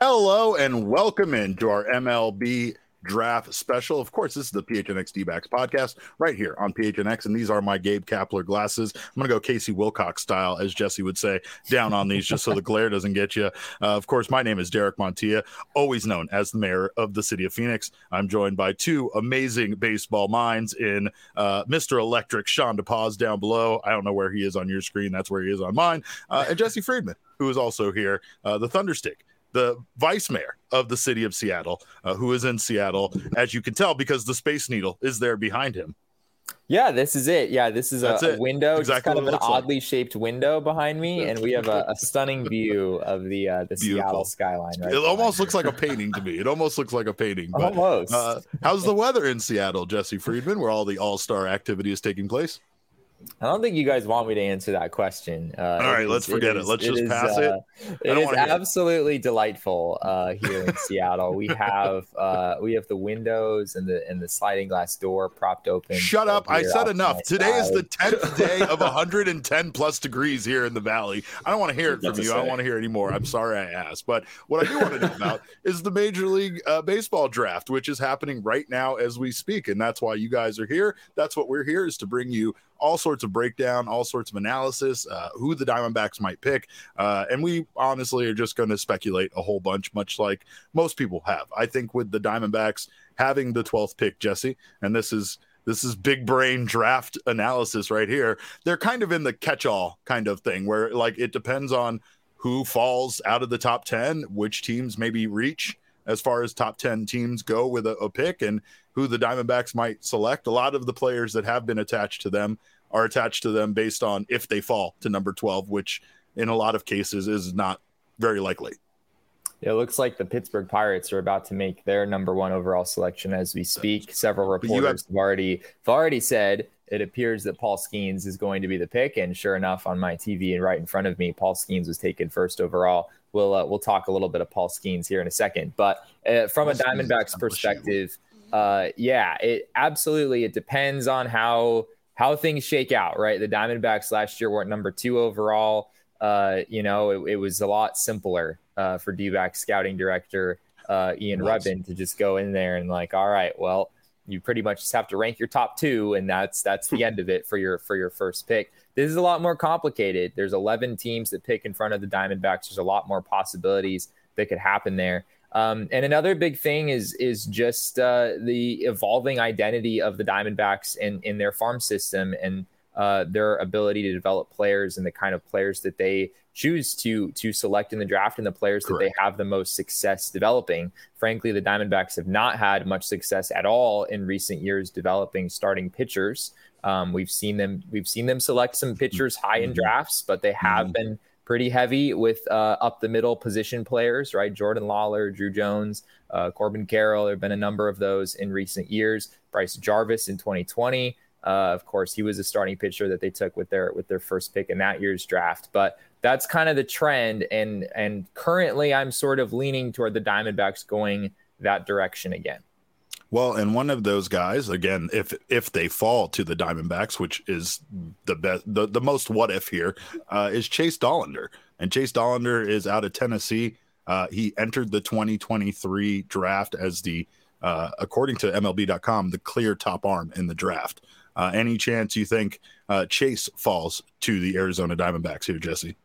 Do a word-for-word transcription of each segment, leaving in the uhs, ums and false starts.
Hello and welcome into our M L B draft special. Of course, this is the P H N X D-backs podcast right here on P H N X, and these are my Gabe Kapler glasses. I'm going to go Casey Wilcox style, as Jesse would say, down on these just so the glare doesn't get you. Uh, of course, my name is Derek Montilla, always known as the mayor of the city of Phoenix. I'm joined by two amazing baseball minds in uh, Mister Electric, Sean DePaz down below. I don't know where he is on your screen. That's where he is on mine. Uh, and Jesse Friedman, who is also here, uh, the Thunderstick, the vice mayor of the city of Seattle, uh, who is in Seattle, as you can tell, because the Space Needle is there behind him. Yeah, this is it. Yeah, this is a, a window, exactly, just kind of an oddly like. shaped window behind me, and we have a, a stunning view of the uh, the Beautiful. Seattle skyline. Right, it almost looks like a painting to me. It almost looks like a painting. But, almost. Uh, how's the weather in Seattle, Jesse Friedman, where all the All-Star activity is taking place? I don't think you guys want me to answer that question. Uh, All right, is, let's forget it. Is, it. Let's it just is, pass uh, it. It is absolutely it. delightful uh, here in Seattle. We have uh, we have the windows and the and the sliding glass door propped open. Shut up! I said enough. Today side. is the tenth day of one hundred ten plus degrees here in the valley. I don't want to hear it from you. I don't want to hear it anymore. I'm sorry I asked, but what I do want to know about is the Major League uh, Baseball draft, which is happening right now as we speak, and that's why you guys are here. That's what we're here is to bring you all sorts of breakdown, all sorts of analysis, uh, who the Diamondbacks might pick. Uh, and we honestly are just going to speculate a whole bunch, much like most people have. I think with the Diamondbacks having the twelfth pick, Jesse, and this is this is big brain draft analysis right here, they're kind of in the catch-all kind of thing where like it depends on who falls out of the top ten, which teams maybe reach as far as top ten teams go with a, a pick, and who the Diamondbacks might select. A lot of the players that have been attached to them are attached to them based on if they fall to number twelve, which in a lot of cases is not very likely. It looks like the Pittsburgh Pirates are about to make their number one overall selection as we speak. Several reporters have, have already have already said it appears that Paul Skeens is going to be the pick, and sure enough, on my T V and right in front of me, Paul Skeens was taken first overall. We'll uh, we'll talk a little bit of Paul Skeens here in a second, but uh, from Paul a Diamondbacks perspective, uh, yeah, it absolutely it depends on how how things shake out, right? The Diamondbacks last year were at number two overall. Uh, you know, it, it was a lot simpler uh, for D-backs scouting director uh, Ian nice. Rubbin to just go in there and like, all right, well, you pretty much just have to rank your top two, and that's that's the end of it for your for your first pick. This is a lot more complicated. There's eleven teams that pick in front of the Diamondbacks. There's a lot more possibilities that could happen there. Um, and another big thing is is just uh, the evolving identity of the Diamondbacks in, in their farm system and uh, their ability to develop players and the kind of players that they choose to to select in the draft and the players Correct. that they have the most success developing. Frankly, the Diamondbacks have not had much success at all in recent years developing starting pitchers. Um, we've seen them we've seen them select some pitchers high in drafts, but they have mm-hmm. been pretty heavy with uh, up the middle position players, right? Jordan Lawler, Drew Jones, uh, Corbin Carroll. There have been a number of those in recent years. Bryce Jarvis in twenty twenty. Uh, of course, he was a starting pitcher that they took with their with their first pick in that year's draft. But that's kind of the trend. And and currently, I'm sort of leaning toward the Diamondbacks going that direction again. Well, and one of those guys, again, if if they fall to the Diamondbacks, which is the best, the, the most what if here, uh, is Chase Dollander. And Chase Dollander is out of Tennessee. Uh, he entered the twenty twenty-three draft as the, uh, according to M L B dot com, the clear top arm in the draft. Uh, any chance you think uh, Chase falls to the Arizona Diamondbacks here, Jesse?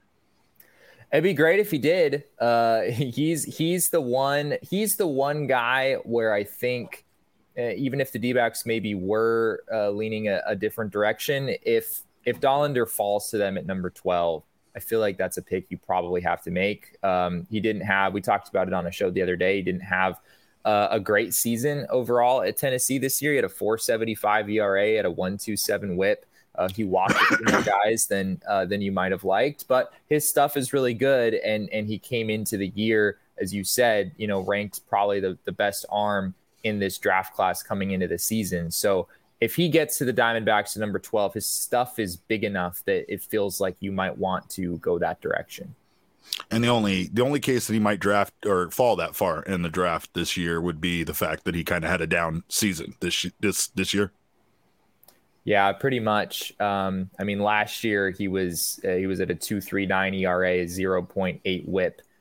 It'd be great if he did. Uh, he's he's the one. He's the one guy where I think. Uh, even if the D-backs maybe were uh, leaning a, a different direction, if if Dollander falls to them at number twelve, I feel like that's a pick you probably have to make. Um, he didn't have, we talked about it on a show the other day, he didn't have uh, a great season overall at Tennessee this year. He had a four seventy-five E R A at a one twenty-seven whip. Uh, he walked a few more guys than uh, than you might have liked, but his stuff is really good, and and he came into the year, as you said, you know, ranked probably the, the best arm in this draft class coming into the season. So if he gets to the Diamondbacks at number twelve, his stuff is big enough that it feels like you might want to go that direction. And the only the only case that he might draft or fall that far in the draft this year would be the fact that he kind of had a down season this this this year. Yeah, pretty much. Um, I mean, last year he was uh, he was at a two point three nine E R A, zero point eight whip.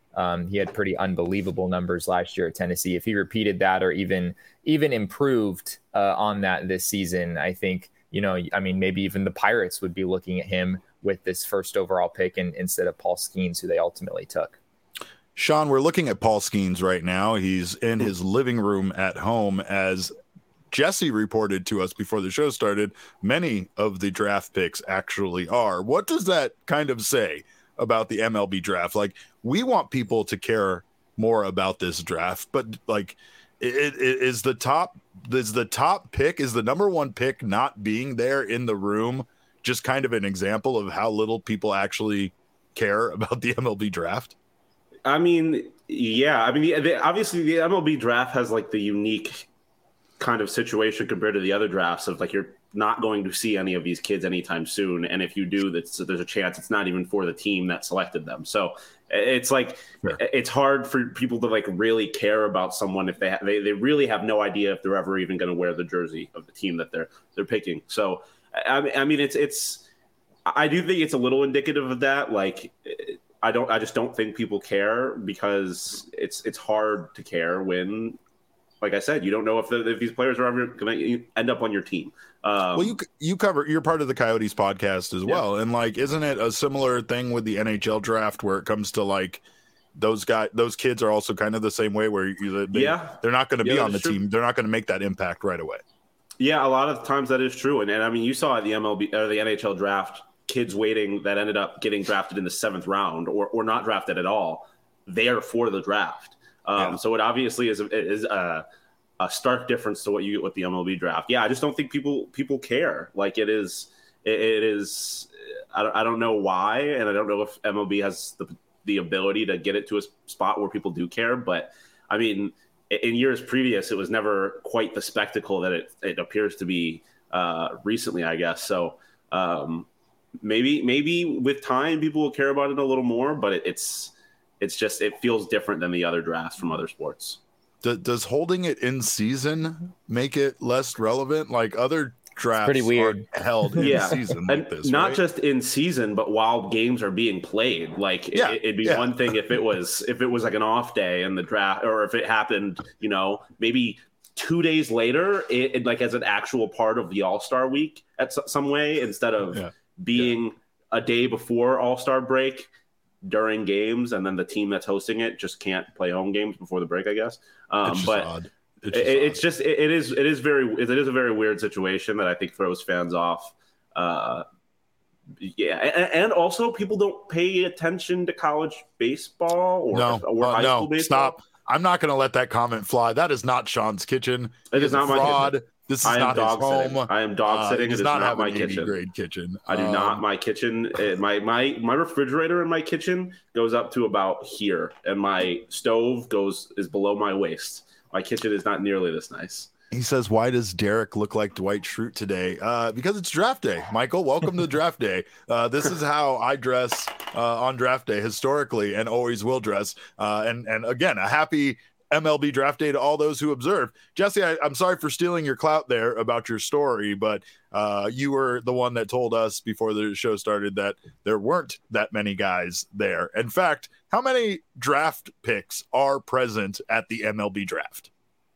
Um, he had pretty unbelievable numbers last year at Tennessee. If he repeated that or even even improved uh, on that this season, I think, you know, I mean, maybe even the Pirates would be looking at him with this first overall pick and, instead of Paul Skeens, who they ultimately took. Sean, we're looking at Paul Skeens right now. He's in his living room at home. As Jesse reported to us before the show started, many of the draft picks actually are. What does that kind of say about the M L B draft? Like, we want people to care more about this draft, but like, it, it is the top, is the top pick, is the number one pick not being there in the room just kind of an example of how little people actually care about the M L B draft? I mean, yeah. I mean, the, the, obviously the M L B draft has like the unique kind of situation compared to the other drafts of like, you're not going to see any of these kids anytime soon. And if you do, that's, there's a chance it's not even for the team that selected them. So it's like, sure. It's hard for people to like really care about someone if they, ha- they, they really have no idea if they're ever even going to wear the jersey of the team that they're, they're picking. So, I, I mean, it's, it's, I do think it's a little indicative of that. Like, I don't, I just don't think people care because it's, it's hard to care when, like I said, you don't know if, the, if these players are ever going to end up on your team. Um, well, you you cover, you're part of the Coyotes podcast as well. Yeah. And like, isn't it a similar thing with the N H L draft where it comes to like those guys, those kids are also kind of the same way where you, they, yeah. they're not going to yeah, be on the true. team. They're not going to make that impact right away. Yeah. A lot of times that is true. And, and I mean, you saw at the M L B or the N H L draft, kids waiting that ended up getting drafted in the seventh round or, or not drafted at all there for the draft. Um, yeah. So it obviously is, is a, a stark difference to what you get with the M L B draft. Yeah, I just don't think people people care. Like it is, it, it is. I don't, I don't know why, and I don't know if M L B has the the ability to get it to a spot where people do care. But I mean, in years previous, it was never quite the spectacle that it it appears to be uh, recently, I guess. So um, maybe maybe with time, people will care about it a little more. But it, it's it's just it feels different than the other drafts from other sports. Does holding it in season make it less relevant? Like other drafts, pretty weird held in yeah. season, like and this, not right? just in season, but while games are being played. Like yeah, it, it'd be yeah. one thing if it was if it was like an off day in the draft, or if it happened, you know, maybe two days later, it, it like as an actual part of the All-Star week at some way instead of yeah. being yeah. a day before All-Star break. During games, and then the team that's hosting it just can't play home games before the break, I guess. Um, it's but odd. It's just, it, it's just it, it is it is very it is a very weird situation that I think throws fans off. Uh, yeah, and, and also people don't pay attention to college baseball or, no, or uh, high no, school baseball. Stop! I'm not going to let that comment fly. That is not Sean's kitchen. It is not fraud. my kitchen. This is I am not dog his sitting. home. I am dog sitting. Uh, it is not, not my an kitchen. Grade kitchen. I do um, not. My kitchen, uh, my my my refrigerator in my kitchen goes up to about here, and my stove goes is below my waist. My kitchen is not nearly this nice. He says, "Why does Derek look like Dwight Schrute today?" Uh, because it's draft day. Michael, welcome to draft day. Uh, this is how I dress uh, on draft day historically, and always will dress. Uh, and and again, a happy M L B draft day to all those who observe. Jesse, I, I'm sorry for stealing your clout there about your story, but uh, you were the one that told us before the show started that there weren't that many guys there. In fact, how many draft picks are present at the M L B draft?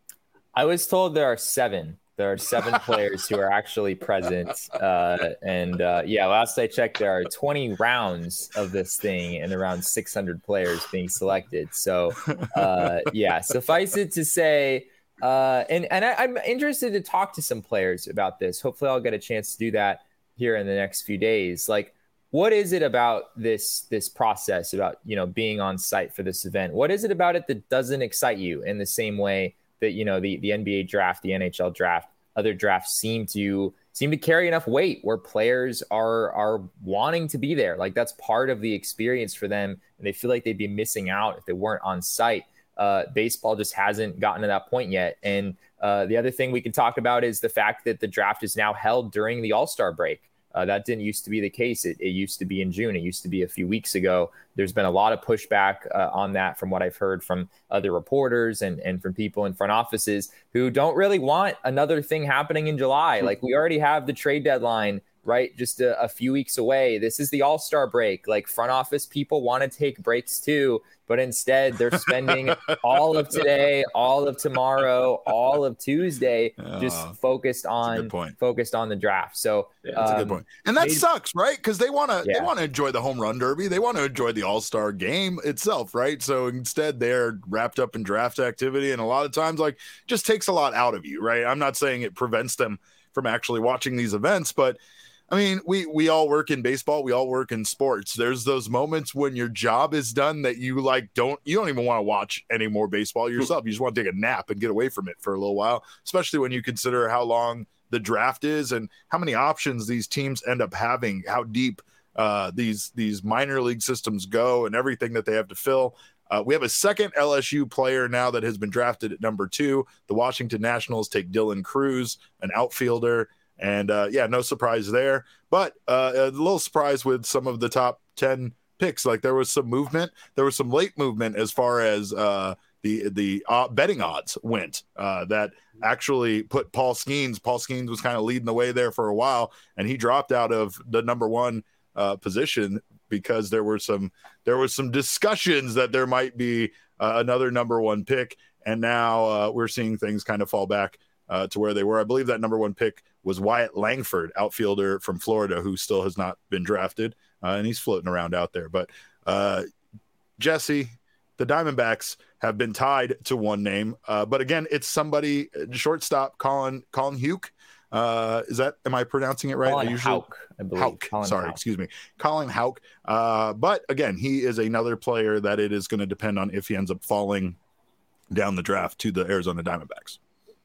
I was told there are seven. There are seven players who are actually present. Uh, and uh, yeah, last I checked, there are twenty rounds of this thing and around six hundred players being selected. So uh, yeah, suffice it to say, uh, and, and I, I'm interested to talk to some players about this. Hopefully I'll get a chance to do that here in the next few days. Like, what is it about this, this process about, you know, being on site for this event? What is it about it that doesn't excite you in the same way that, you know, the, the N B A draft, the N H L draft, other drafts seem to seem to carry enough weight where players are are wanting to be there? Like that's part of the experience for them, and they feel like they'd be missing out if they weren't on site. Uh, baseball just hasn't gotten to that point yet. And uh, the other thing we can talk about is the fact that the draft is now held during the All-Star break. Uh, that didn't used to be the case. It, it used to be in June. It used to be a few weeks ago. There's been a lot of pushback uh, on that from what I've heard from other reporters and, and from people in front offices who don't really want another thing happening in July. Like we already have the trade deadline right? Just a, a few weeks away. This is the All-Star break. Like, front office people want to take breaks too, but instead they're spending all of today, all of tomorrow, all of Tuesday just oh, focused on focused on the draft. So yeah, that's um, a good point. And that maybe, sucks, right? Because they want to yeah. they want to enjoy the home run derby. They want to enjoy the All-Star game itself, right? So instead they're wrapped up in draft activity, and a lot of times like just takes a lot out of you, right? I'm not saying it prevents them from actually watching these events, but I mean, we we all work in baseball. We all work in sports. There's those moments when your job is done that you like don't you don't even want to watch any more baseball yourself. You just want to take a nap and get away from it for a little while, especially when you consider how long the draft is and how many options these teams end up having, how deep uh, these these minor league systems go, and everything that they have to fill. Uh, we have a second L S U player now that has been drafted at number two. The Washington Nationals take Dylan Cruz, an outfielder. And uh, yeah, no surprise there. But uh, a little surprise with some of the top ten picks. Like there was some movement. There was some late movement as far as uh, the the uh, betting odds went uh, that actually put Paul Skeens. Paul Skeens was kind of leading the way there for a while, and he dropped out of the number one uh, position because there were some there was some discussions that there might be uh, another number one pick. And now uh, we're seeing things kind of fall back uh, to where they were. I believe that number one pick was Wyatt Langford, outfielder from Florida, who still has not been drafted, uh, and he's floating around out there. But uh, Jesse, the Diamondbacks have been tied to one name, uh, but again, it's somebody shortstop Colin Colin Houck. Uh, is that am I pronouncing it right? Colin I usually, Houck, I believe. Houck. Colin Sorry, Houck. excuse me, Colin Houck. Uh, but again, he is another player that it is going to depend on if he ends up falling down the draft to the Arizona Diamondbacks.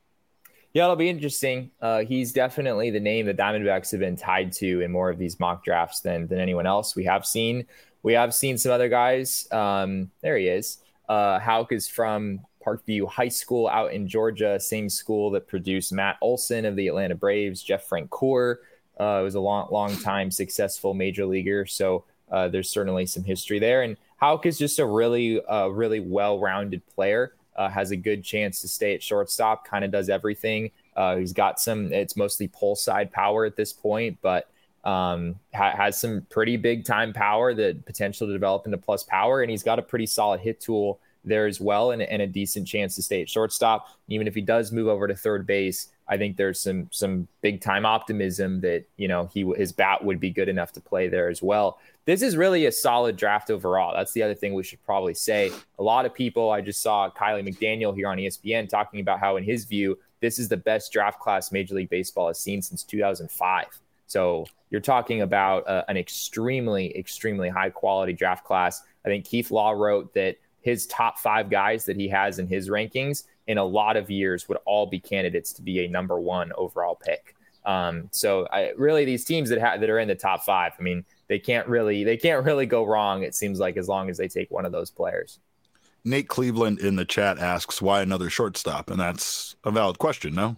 Yeah, it'll be interesting. Uh, he's definitely the name the Diamondbacks have been tied to in more of these mock drafts than than anyone else. We have seen we have seen some other guys. Um, there he is. Uh, Houck is from Parkview High School out in Georgia, same school that produced Matt Olson of the Atlanta Braves. Jeff Francoeur uh, was a long, long time successful major leaguer. So uh, there's certainly some history there. And Houck is just a really, uh, really well-rounded player. Uh, has a good chance to stay at shortstop, kind of does everything. Uh, he's got some, it's mostly pull side power at this point, but um, ha- has some pretty big time power, that potential to develop into plus power. And he's got a pretty solid hit tool there as well, and, and a decent chance to stay at shortstop. Even if he does move over to third base, I think there's some some big time optimism that, you know, he his bat would be good enough to play there as well. This is really a solid draft overall. That's the other thing we should probably say. A lot of people, I just saw Kiley McDaniel here on E S P N talking about how, in his view, this is the best draft class Major League Baseball has seen since two thousand five. So you're talking about uh, an extremely, extremely high quality draft class. I think Keith Law wrote that his top five guys that he has in his rankings in a lot of years would all be candidates to be a number one overall pick. Um, so I, really these teams that ha- that are in the top five, I mean, they can't really, they can't really go wrong. It seems like, as long as they take one of those players. Nate Cleveland in the chat asks, why another shortstop? And that's a valid question. No,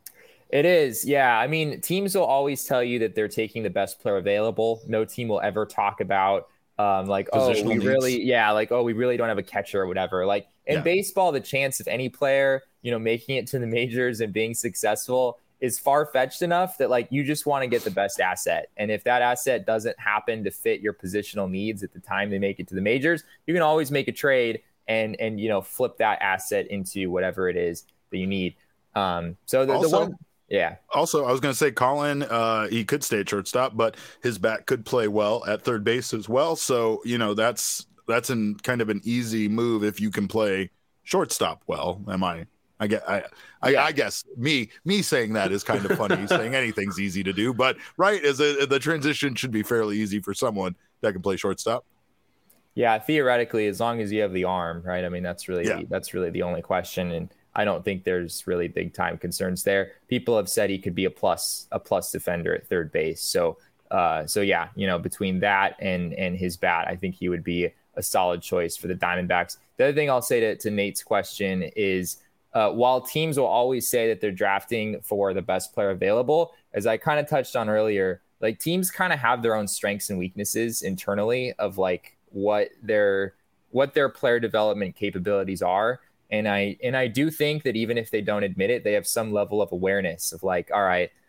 it is. Yeah. I mean, teams will always tell you that they're taking the best player available. No team will ever talk about Um, like, oh, we needs. really, yeah, like, oh, we really don't have a catcher or whatever. Like in yeah. baseball, the chance of any player, you know, making it to the majors and being successful is far-fetched enough that, like, you just want to get the best asset. And if that asset doesn't happen to fit your positional needs at the time they make it to the majors, you can always make a trade and, and, you know, flip that asset into whatever it is that you need. Um, so the, also, the one, yeah. Also, I was going to say, Colin, uh, he could stay at shortstop, but his bat could play well at third base as well. So, you know, that's that's an kind of an easy move if you can play shortstop well. Am I? I get. I. I, yeah. I guess me me saying that is kind of funny. Saying anything's easy to do, but right, as a, the transition should be fairly easy for someone that can play shortstop. Yeah, theoretically, as long as you have the arm, right? I mean, that's really yeah. that's really the only question. And I don't think there's really big time concerns there. People have said he could be a plus, a plus defender at third base. So, uh, so yeah, you know, between that and and his bat, I think he would be a solid choice for the Diamondbacks. The other thing I'll say to, to Nate's question is, uh, while teams will always say that they're drafting for the best player available, as I kind of touched on earlier, like teams kind of have their own strengths and weaknesses internally of like what their what their player development capabilities are. And I and I do think that even if they don't admit it, they have some level of awareness of like, all right,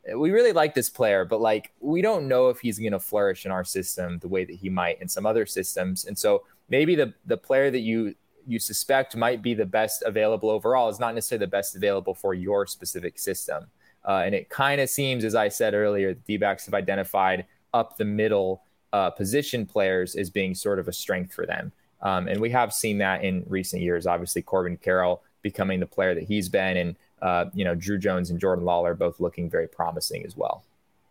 we really like this player, but like we don't know if he's going to flourish in our system the way that he might in some other systems. And so maybe the the player that you you suspect might be the best available overall is not necessarily the best available for your specific system. Uh, and it kind of seems, as I said earlier, the D-backs have identified up the middle uh, position players as being sort of a strength for them. Um, and we have seen that in recent years. Obviously, Corbin Carroll becoming the player that he's been, and uh, you know, Drew Jones and Jordan Lawler both looking very promising as well.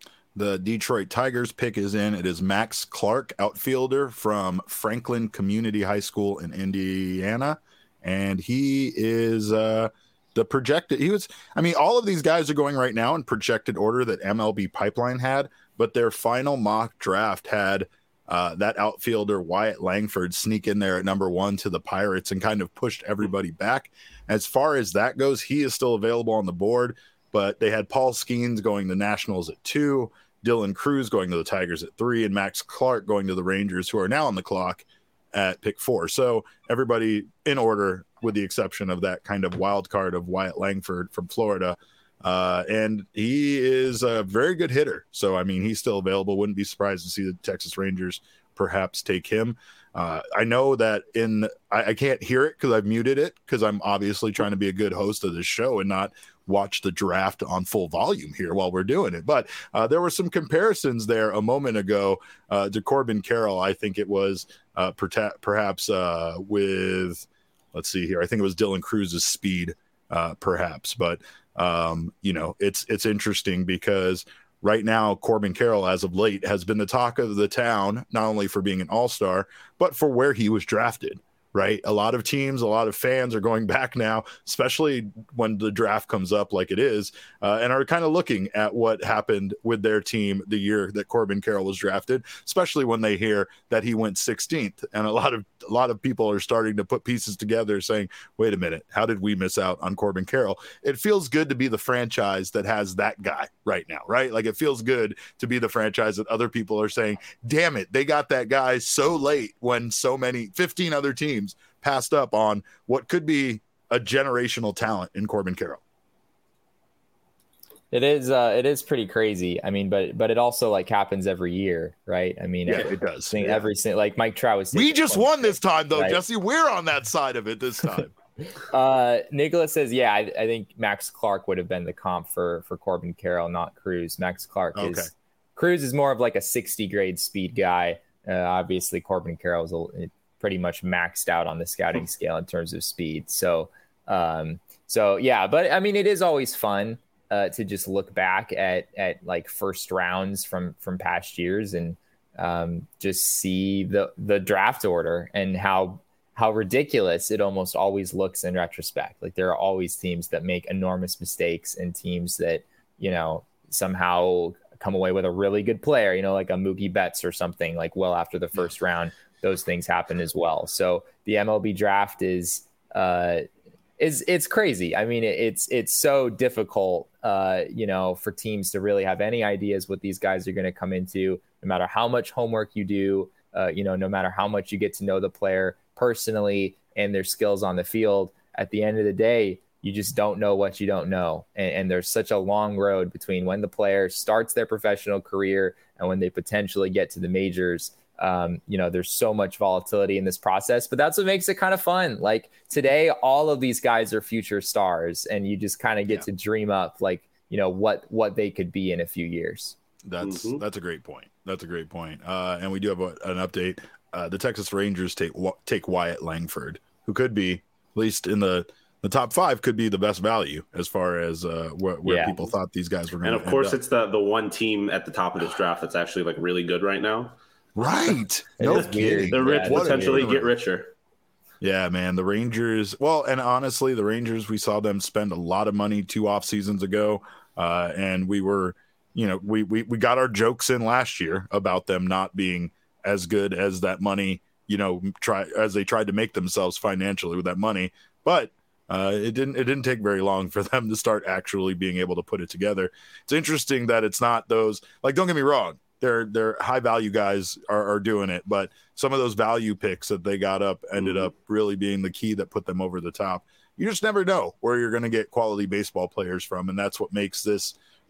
The Detroit Tigers pick is in. It is Max Clark, outfielder from Franklin Community High School in Indiana. And he is uh, the projected. He was, I mean, all of these guys are going right now in projected order that M L B Pipeline had, but their final mock draft had uh, that outfielder Wyatt Langford sneak in there at number one to the Pirates and kind of pushed everybody back. As far as that goes, he is still available on the board, but they had Paul Skeens going to Nationals at two, Dylan Cruz going to the Tigers at three, and Max Clark going to the Rangers, who are now on the clock at pick four. So everybody in order, with the exception of that kind of wild card of Wyatt Langford from Florida. Uh, and he is a very good hitter. So, I mean, he's still available. Wouldn't be surprised to see the Texas Rangers perhaps take him. Uh, I know that in I, I can't hear it because I've muted it because I'm obviously trying to be a good host of this show and not watch the draft on full volume here while we're doing it. But uh, there were some comparisons there a moment ago uh, to Corbin Carroll. I think it was uh, per- perhaps uh, with, let's see here. I think it was Dylan Cruz's speed, uh, perhaps. But, um, you know, it's it's interesting because right now, Corbin Carroll, as of late, has been the talk of the town, not only for being an all-star, but for where he was drafted, right? A lot of teams, a lot of fans are going back now, especially when the draft comes up like it is, uh, and are kind of looking at what happened with their team the year that Corbin Carroll was drafted, especially when they hear that he went sixteenth. And a lot of a lot of people are starting to put pieces together saying, wait a minute, how did we miss out on Corbin Carroll? It feels good to be the franchise that has that guy right now, right? Like it feels good to be the franchise that other people are saying, damn it, they got that guy so late when so many, fifteen other teams passed up on what could be a generational talent in Corbin Carroll. It is, uh, it is pretty crazy. I mean, but but it also like happens every year, right? I mean, yeah, every, it does. Yeah. Every like Mike Trout was. We just won this time, though, right? Jesse. We're on that side of it this time. uh, Nicholas says, yeah, I, I think Max Clark would have been the comp for for Corbin Carroll, not Cruz. Max Clark okay. is Cruz is more of like a sixty grade speed guy. Uh, obviously, Corbin Carroll is a, pretty much maxed out on the scouting scale in terms of speed. So, um, so yeah, but I mean, it is always fun. Uh, to just look back at at like first rounds from from past years and um, just see the the draft order and how how ridiculous it almost always looks in retrospect. Like there are always teams that make enormous mistakes and teams that, you know, somehow come away with a really good player, you know, like a Mookie Betts or something like well after the first round. Those things happen as well. So the M L B draft is uh, is it's crazy. I mean, it, it's it's so difficult, uh, you know, for teams to really have any ideas what these guys are going to come into, no matter how much homework you do, uh, you know, no matter how much you get to know the player personally and their skills on the field. At the end of the day, you just don't know what you don't know. And, and there's such a long road between when the player starts their professional career and when they potentially get to the majors. Um, you know, there's so much volatility in this process, but that's what makes it kind of fun. Like today, all of these guys are future stars and you just kind of get yeah. to dream up like, you know, what, what they could be in a few years. That's, mm-hmm. that's a great point. That's a great point. Uh, and we do have a, an update. Uh, the Texas Rangers take, take Wyatt Langford, who could be at least in the, the top five could be the best value as far as uh, wh- where yeah. people thought these guys were going to And of course, it's the, the one team at the top of this draft that's actually like really good right now. Right. No kidding. The rich yeah, potentially get richer. Yeah, man. The Rangers. Well, and honestly, the Rangers, we saw them spend a lot of money two off seasons ago. Uh, and we were, you know, we, we, we got our jokes in last year about them not being as good as that money, you know, try as they tried to make themselves financially with that money. But uh, it didn't it didn't take very long for them to start actually being able to put it together. It's interesting that it's not those, like, don't get me wrong. They're, they're high value guys are, are doing it, but some of those value picks that they got up ended mm-hmm. up really being the key that put them over the top. You just never know where you're going to get quality baseball players from. And that's what makes this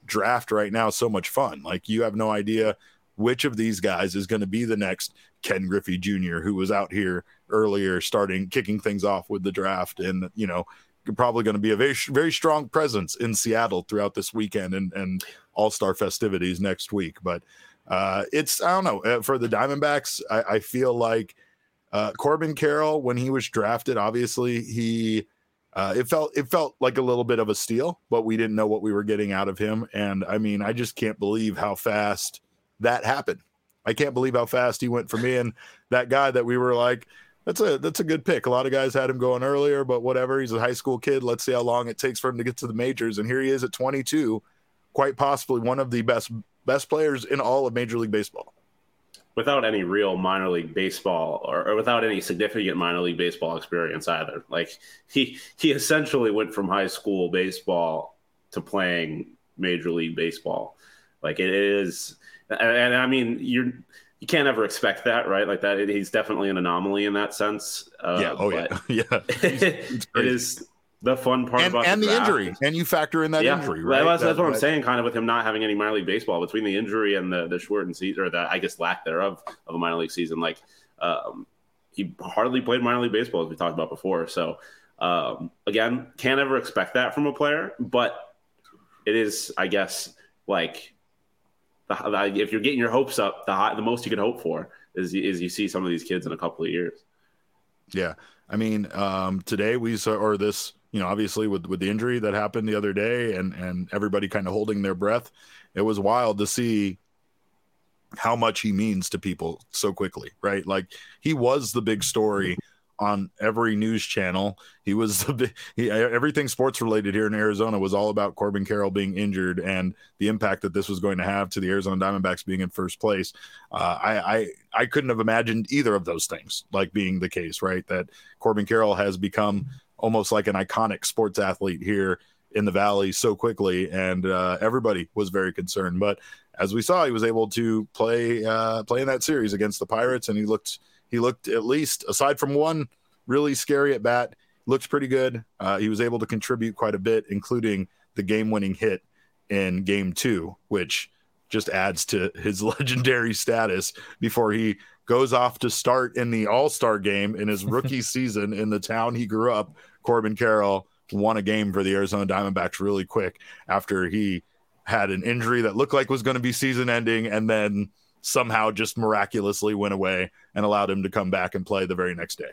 draft right now so much fun. Like, you have no idea which of these guys is going to be the next Ken Griffey Junior, who was out here earlier starting kicking things off with the draft, and you know, probably going to be a very very strong presence in Seattle throughout this weekend and and all-star festivities next week. But uh it's I don't know, for the Diamondbacks, I, I feel like uh Corbin Carroll, when he was drafted, obviously he uh it felt it felt like a little bit of a steal, but we didn't know what we were getting out of him. And I mean, I just can't believe how fast that happened. I can't believe how fast he went from being that guy that we were like, that's a that's a good pick. A lot of guys had him going earlier, but whatever. He's a high school kid. Let's see how long it takes for him to get to the majors. And here he is at twenty-two, quite possibly one of the best best players in all of Major League Baseball. Without any real minor league baseball or, or without any significant minor league baseball experience either. Like, he he essentially went from high school baseball to playing Major League Baseball. Like, it is, and, and I mean, you're you can't ever expect that, right? Like that, he's definitely an anomaly in that sense. Uh, yeah. Oh yeah. Yeah. it is the fun part and, about and the, the injury, and you factor in that yeah. injury, right? That's, that's that, what I'm that, saying. Kind of with him not having any minor league baseball, between the injury and the the shortened season, or the I guess lack thereof of a minor league season. Like, um, he hardly played minor league baseball, as we talked about before. So um, again, can't ever expect that from a player, but it is, I guess, like. The, if you're getting your hopes up, the high, the most you can hope for is is you see some of these kids in a couple of years. Yeah, I mean, um, today we saw, or this, you know, obviously with with the injury that happened the other day, and and everybody kind of holding their breath, it was wild to see how much he means to people so quickly, right? Like, he was the big story on every news channel. He was the big, he, everything sports related here in Arizona was all about Corbin Carroll being injured and the impact that this was going to have to the Arizona Diamondbacks being in first place. Uh, I, I I couldn't have imagined either of those things like being the case, right? That Corbin Carroll has become almost like an iconic sports athlete here in the Valley so quickly, and uh, everybody was very concerned. But as we saw, he was able to play uh, play in that series against the Pirates, and he looked. He looked, at least aside from one really scary at bat, looked pretty good. Uh, he was able to contribute quite a bit, including the game-winning hit in game two, which just adds to his legendary status before he goes off to start in the All-Star game in his rookie season in the town he grew up. Corbin Carroll won a game for the Arizona Diamondbacks really quick after he had an injury that looked like was going to be season-ending, and then somehow just miraculously went away and allowed him to come back and play the very next day.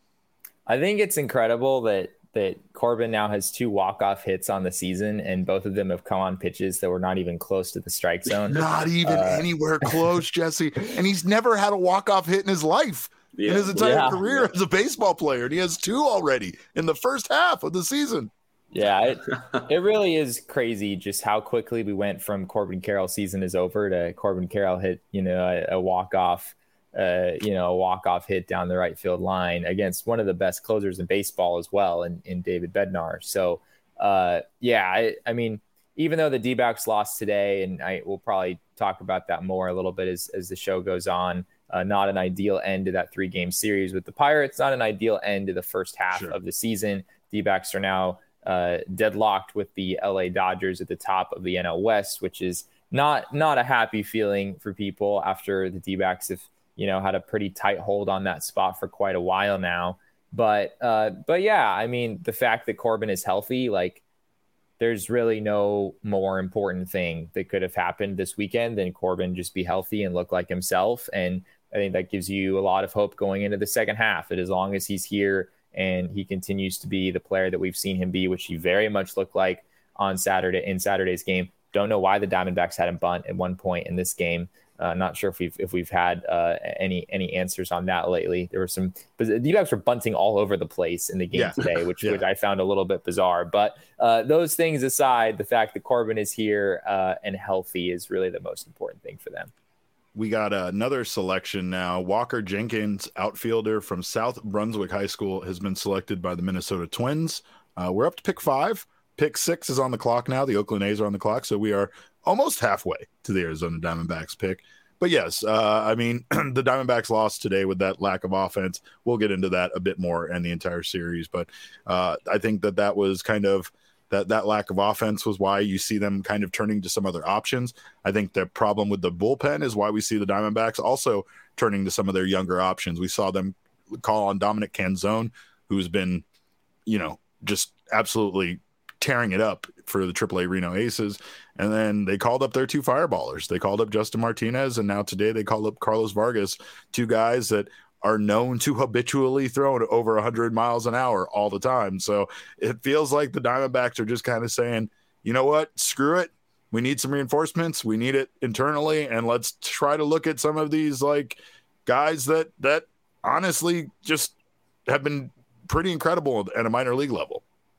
I think it's incredible that that Corbin now has two walk-off hits on the season, and both of them have come on pitches that were not even close to the strike zone. Not even uh, anywhere close, Jesse. And he's never had a walk-off hit in his life, yeah. in his entire yeah. career yeah. as a baseball player. And he has two already in the first half of the season. Yeah, it, it really is crazy just how quickly we went from Corbin Carroll season is over to Corbin Carroll hit, you know, a, a walk-off, uh, you know, a walk-off hit down the right field line against one of the best closers in baseball as well, in, in David Bednar. So, uh, yeah, I, I mean, even though the D-backs lost today, and I will probably talk about that more a little bit as, as the show goes on, uh, not an ideal end to that three-game series with the Pirates, not an ideal end to the first half sure. of the season. D-backs are now Uh, deadlocked with the L A Dodgers at the top of the N L West, which is not not a happy feeling for people after the D-backs have, you know, had a pretty tight hold on that spot for quite a while now. But uh, but yeah, I mean, the fact that Corbin is healthy, like, there's really no more important thing that could have happened this weekend than Corbin just be healthy and look like himself. And I think that gives you a lot of hope going into the second half, that as long as he's here and he continues to be the player that we've seen him be, which he very much looked like on Saturday in Saturday's game. Don't know why the Diamondbacks had him bunt at one point in this game. Uh, not sure if we've if we've had uh, any any answers on that lately. There were some, but the D-backs were bunting all over the place in the game yeah. today, which, yeah. which I found a little bit bizarre. But uh, those things aside, the fact that Corbin is here uh, and healthy is really the most important thing for them. We got another selection now. Walker Jenkins, outfielder from South Brunswick High School, has been selected by the Minnesota Twins. Uh, we're up to pick five. Pick six is on the clock now. The Oakland A's are on the clock, so we are almost halfway to the Arizona Diamondbacks pick. But yes, uh, I mean, the Diamondbacks lost today with that lack of offense. We'll get into that a bit more in the entire series. But uh, I think that that was kind of that that lack of offense was why you see them kind of turning to some other options. I think the problem with the bullpen is why we see the Diamondbacks also turning to some of their younger options. We saw them call on Dominic Canzone, who's been, you know, just absolutely tearing it up for the triple A Reno Aces. And then they called up their two fireballers. They called up Justin Martinez, and now today they called up Carlos Vargas, two guys that are known to habitually throw over one hundred miles an hour all the time. So it feels like the Diamondbacks are just kind of saying, you know what, screw it. We need some reinforcements. We need it internally. And let's try to look at some of these like guys that, that honestly just have been pretty incredible at a minor league level.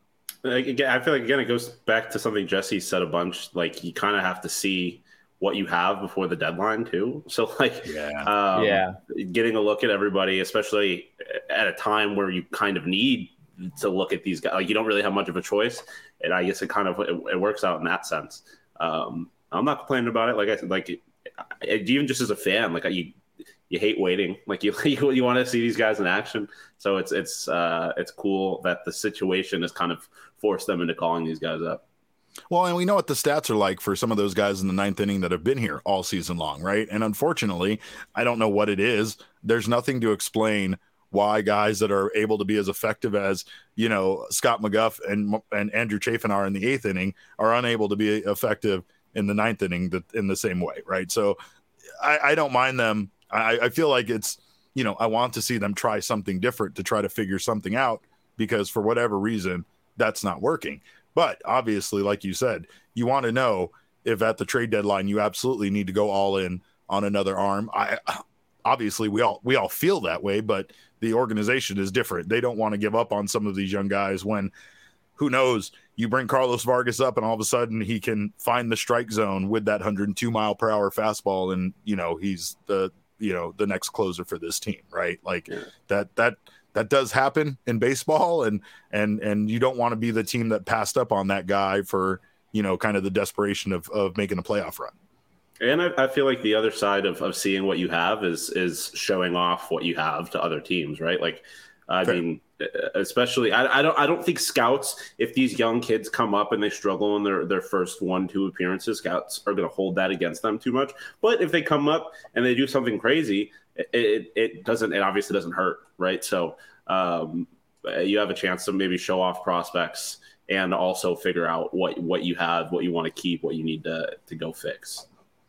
Again, I feel like, again, it goes back to something Jesse said a bunch. Like, you kind of have to see what you have before the deadline too. So like, yeah, um, yeah, getting a look at everybody, especially at a time where you kind of need to look at these guys, like you don't really have much of a choice. And I guess it kind of, it, it works out in that sense. Um, I'm not complaining about it. Like I said, like it, it, even just as a fan, like you, you hate waiting, like you, you, you want to see these guys in action. So it's, it's, uh, it's cool that the situation has kind of forced them into calling these guys up. Well, and we know what the stats are like for some of those guys in the ninth inning that have been here all season long, right? And unfortunately, I don't know what it is. There's nothing to explain why guys that are able to be as effective as, you know, Scott McGough and and Andrew Chafin are in the eighth inning are unable to be effective in the ninth inning that, in the same way, right? So I, I don't mind them. I, I feel like it's, you know, I want to see them try something different to try to figure something out because for whatever reason, that's not working. But obviously, like you said, you want to know if at the trade deadline you absolutely need to go all in on another arm. I obviously we all we all feel that way, but the organization is different. They don't want to give up on some of these young guys when, who knows, you bring Carlos Vargas up and all of a sudden he can find the strike zone with that one hundred two mile per hour fastball, and you know he's the you know the next closer for this team, right? Like yeah. that that. That does happen in baseball, and and and you don't want to be the team that passed up on that guy for, you know, kind of the desperation of, of making a playoff run. And I, I feel like the other side of, of seeing what you have is is showing off what you have to other teams, right? Like, I Fair. mean, especially I, I don't I don't think scouts, if these young kids come up and they struggle in their, their first one, two appearances, scouts are going to hold that against them too much. But if they come up and they do something crazy, it, it, it doesn't, it obviously doesn't hurt, right? So um, you have a chance to maybe show off prospects and also figure out what, what you have, what you want to keep, what you need to, to go fix.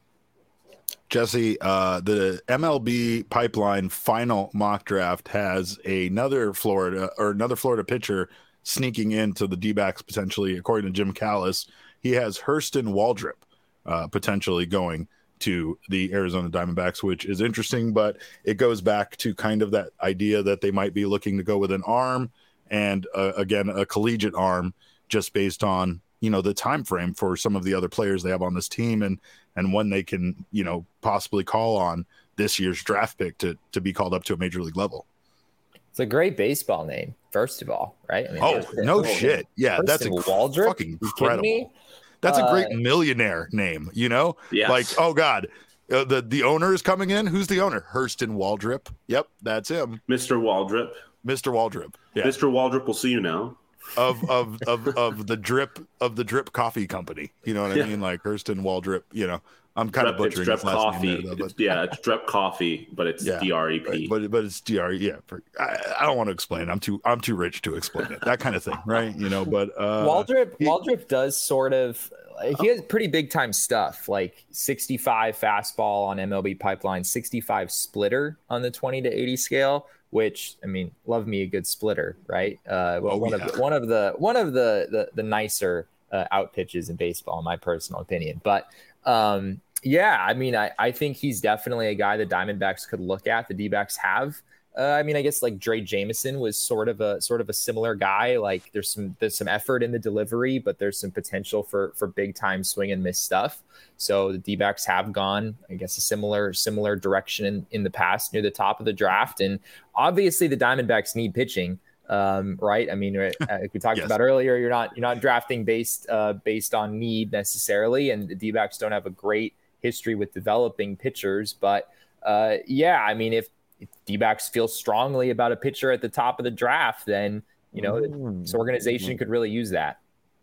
Jesse, uh, the M L B Pipeline final mock draft has another Florida or another Florida pitcher sneaking into the D-backs potentially, according to Jim Callis. He has Hurston Waldrep uh, potentially going to the Arizona Diamondbacks, which is interesting, but it goes back to kind of that idea that they might be looking to go with an arm and uh, again, a collegiate arm just based on, you know, the time frame for some of the other players they have on this team and, and when they can, you know, possibly call on this year's draft pick to, to be called up to a major league level. It's a great baseball name, first of all, right? I mean, oh, no shit. Yeah, Hurston that's Waldrep? fucking incredible. That's a great uh, millionaire name, you know? Yes. Like, oh, God, uh, the, the owner is coming in. Who's the owner? Hurston Waldrep. Yep, that's him. Mister Waldrep. Mister Waldrep. Yeah. Mister Waldrep will see you now. Of of of of the drip of the drip coffee company. You know what I yeah. mean? Like Hurston Waldrep, you know. I'm kind Drep, of butchering it's his last coffee. name there, though, it's, yeah, it's Drep Coffee, but it's yeah, D R E P. Right, but but it's D R E. Yeah, for, I, I don't want to explain it. I'm too I'm too rich to explain it. That kind of thing, right? You know. But uh, Waldrep he, Waldrep does sort of. He has pretty big time stuff, like sixty-five fastball on M L B Pipeline, sixty-five splitter on the twenty to eighty scale. Which, I mean, love me a good splitter, right? Uh, well, oh, one yeah. of the, one of the one of the the, the nicer uh, out pitches in baseball, in my personal opinion. But um, yeah, I mean, I, I think he's definitely a guy the Diamondbacks could look at. The D-backs have. Uh, I mean, I guess like Dre Jameson was sort of a sort of a similar guy. Like there's some there's some effort in the delivery, but there's some potential for for big time swing and miss stuff. So the D-backs have gone, I guess, a similar similar direction in, in the past near the top of the draft. And obviously the Diamondbacks need pitching, um, right? I mean, like we talked yes. about earlier, you're not you're not drafting based uh, based on need necessarily, and the D-backs don't have a great history with developing pitchers. But uh, yeah, I mean, if If D-backs feel strongly about a pitcher at the top of the draft, then, you know, mm. this organization could really use that.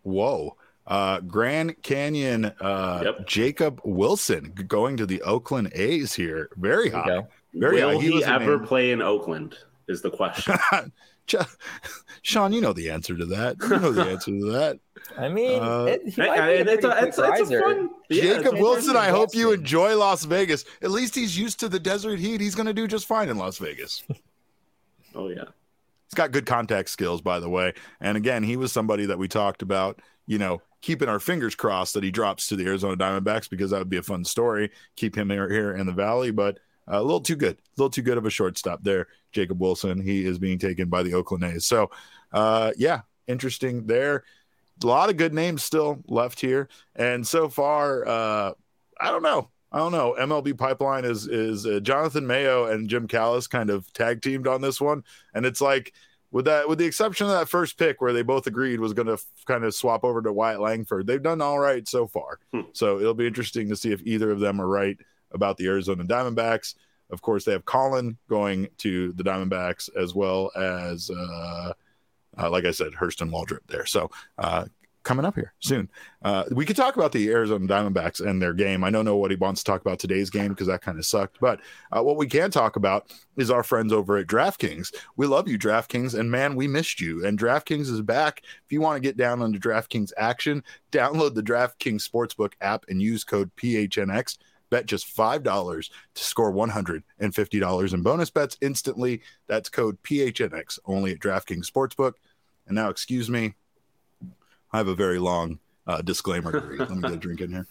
Whoa. Uh, Grand Canyon, uh, Yep. Jacob Wilson going to the Oakland A's here. Very high. Very Will high. he, he ever play in Oakland is the question. Sean, you know the answer to that. You know the answer to that. I mean, uh, it, he might hey, be a it's, a, it's, it's a fun. Jacob yeah, Wilson, I hope you enjoy Las Vegas. At least he's used to the desert heat. He's going to do just fine in Las Vegas. Oh, yeah. He's got good contact skills, by the way. And again, he was somebody that we talked about, you know, keeping our fingers crossed that he drops to the Arizona Diamondbacks, because that would be a fun story. Keep him here, here in the Valley, but uh, a little too good. A little too good of a shortstop there, Jacob Wilson. He is being taken by the Oakland A's. So, uh, yeah, interesting there. A lot of good names still left here. And so far, uh, I don't know. I don't know. M L B Pipeline is is uh, Jonathan Mayo and Jim Callis kind of tag teamed on this one, and it's like with that, with the exception of that first pick where they both agreed was going to f- kind of swap over to Wyatt Langford, they've done all right so far. Hmm. So it'll be interesting to see if either of them are right about the Arizona Diamondbacks. Of course, they have Colin going to the Diamondbacks, as well as, uh, uh, like I said, Hurston Waldrop there. So. Uh, coming up here soon. Uh, we could talk about the Arizona Diamondbacks and their game. I don't know what he wants to talk about today's game because that kind of sucked. But uh, what we can talk about is our friends over at DraftKings. We love you, DraftKings, and man, we missed you. And DraftKings is back. If you want to get down on the DraftKings action, download the DraftKings Sportsbook app and use code P H N X. Bet just five dollars to score one hundred fifty dollars in bonus bets instantly. That's code P H N X only at DraftKings Sportsbook. And now, excuse me, I have a very long uh, disclaimer to read. Let me get a drink in here.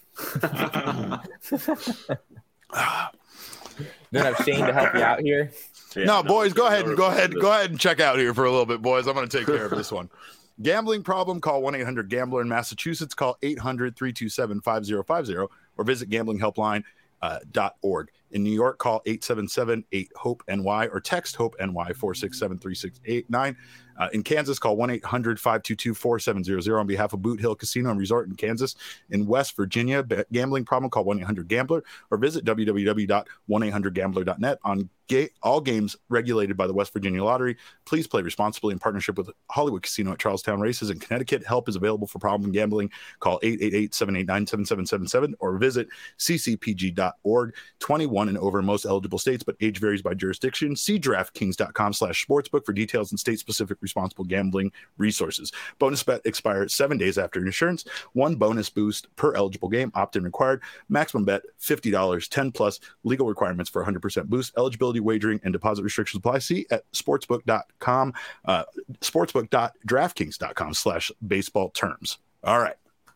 Don't have Shane to help you out here. Yeah, no, no, boys, go ahead and go ahead, go ahead and check out here for a little bit, boys. I'm going to take care of this one. Gambling problem? Call one eight hundred gambler in Massachusetts. Call eight hundred three two seven five zero five zero or visit gambling helpline dot org. In New York, call eight seven seven eight hope N Y or text hope N Y four six seven three six eight nine. Uh, in Kansas, call one eight hundred five two two four seven zero zero on behalf of Boot Hill Casino and Resort in Kansas. In West Virginia, gambling problem? Call one eight hundred gambler or visit w w w dot one eight hundred gambler dot net. On ga- all games regulated by the West Virginia Lottery. Please play responsibly in partnership with Hollywood Casino at Charlestown Races in Connecticut. Help is available for problem gambling. Call eight eight eight seven eight nine seven seven seven seven or visit c c p g dot org. twenty-one and over in most eligible states, but age varies by jurisdiction. See DraftKings dot com slash sportsbook for details and state-specific responsible gambling resources. Bonus bet expires seven days after insurance. One bonus boost per eligible game. Opt-in required. Maximum bet fifty dollars, ten plus. Legal requirements for one hundred percent boost. Eligibility, wagering, and deposit restrictions apply. See at sportsbook dot com, uh, sportsbook dot draftkings dot com slash baseball terms. All right.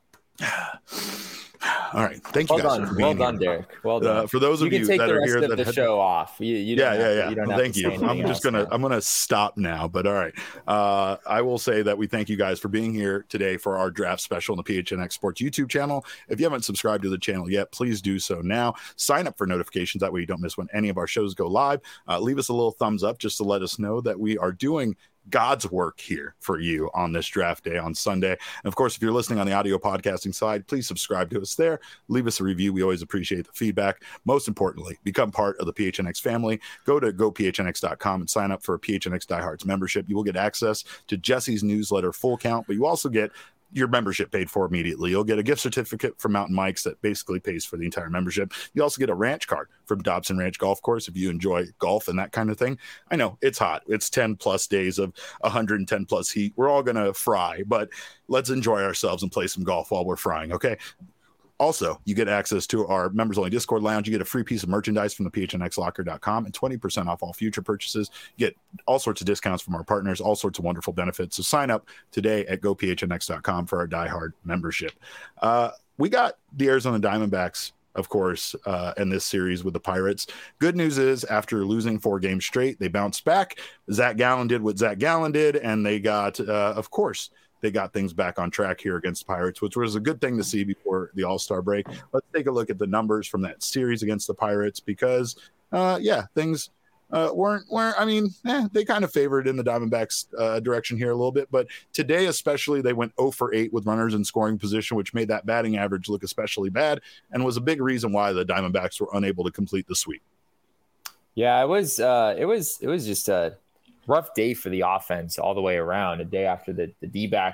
All right. Thank you well guys. Done. For being well done, here. Derek. Well done. Uh, for those of you, you, can take that the are rest here of that the had, show off. You, you yeah, yeah, to, yeah. you don't well, have thank to you. I'm just gonna now. I'm gonna stop now. But all right. Uh, I will say that we thank you guys for being here today for our draft special on the P H N X Sports YouTube channel. If you haven't subscribed to the channel yet, please do so now. Sign up for notifications. That way you don't miss when any of our shows go live. Uh, leave us a little thumbs up just to let us know that we are doing God's work here for you on this draft day on Sunday. And of course, if you're listening on the audio podcasting side, please subscribe to us there. Leave us a review. We always appreciate the feedback. Most importantly, become part of the P H N X family. Go to go P H N X dot com and sign up for a P H N X Diehards membership. You will get access to Jesse's newsletter Full Count, but you also get your membership paid for immediately. You'll get a gift certificate from Mountain Mike's that basically pays for the entire membership. You also get a ranch card from Dobson Ranch Golf Course if you enjoy golf and that kind of thing. I know it's hot. It's ten plus days of one hundred ten plus heat. We're all going to fry, but let's enjoy ourselves and play some golf while we're frying. Okay. Also, you get access to our members-only Discord lounge. You get a free piece of merchandise from the P H N X locker dot com and twenty percent off all future purchases. You get all sorts of discounts from our partners, all sorts of wonderful benefits. So sign up today at go P H N X dot com for our diehard membership. Uh, we got the Arizona Diamondbacks, of course, uh, in this series with the Pirates. Good news is, after losing four games straight, they bounced back. Zach Gallen did what Zach Gallen did, and they got, uh, of course, they got things back on track here against the Pirates, which was a good thing to see before the All-Star break. Let's take a look at the numbers from that series against the Pirates because, uh, yeah, things uh, weren't, weren't, I mean, eh, they kind of favored in the Diamondbacks uh, direction here a little bit. But today especially, they went zero for eight with runners in scoring position, which made that batting average look especially bad and was a big reason why the Diamondbacks were unable to complete the sweep. Yeah, it was, uh, it was, it was just a rough day for the offense all the way around. A day after the, the D-backs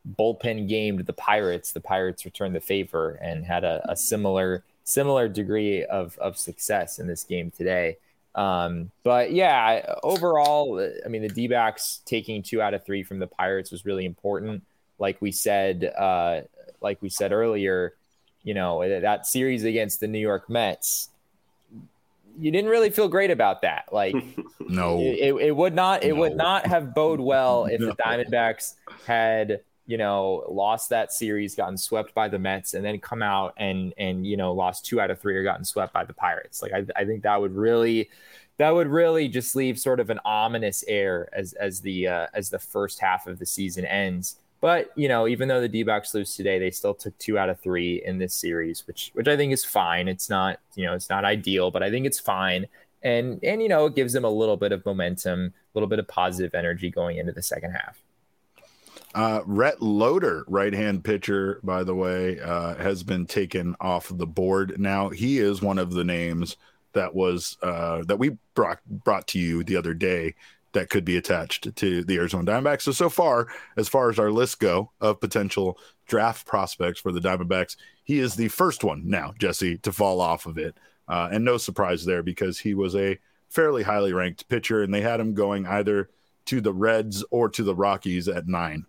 bullpen game to the Pirates, the Pirates returned the favor and had a, a similar similar degree of of success in this game today. Um, but yeah, overall, I mean, the D-backs taking two out of three from the Pirates was really important. Like we said, uh, like we said earlier, you know, that series against the New York Mets, you didn't really feel great about that. Like, no, it, it would not, it no. would not have bode well if no. the Diamondbacks had, you know, lost that series, gotten swept by the Mets, and then come out and, and, you know, lost two out of three or gotten swept by the Pirates. Like, I, I think that would really, that would really just leave sort of an ominous air as, as the, uh, as the first half of the season ends. But, you know, even though the D-backs lose today, they still took two out of three in this series, which which I think is fine. It's not, you know, it's not ideal, but I think it's fine. And, and you know, it gives them a little bit of momentum, a little bit of positive energy going into the second half. Uh, Rhett Loader, right-hand pitcher, by the way, uh, has been taken off the board. Now, he is one of the names that was uh, that we brought, brought to you the other day that could be attached to the Arizona Diamondbacks. So, so far, as far as our lists go of potential draft prospects for the Diamondbacks, he is the first one now, Jesse, to fall off of it. Uh, and no surprise there because he was a fairly highly ranked pitcher, and they had him going either to the Reds or to the Rockies at nine.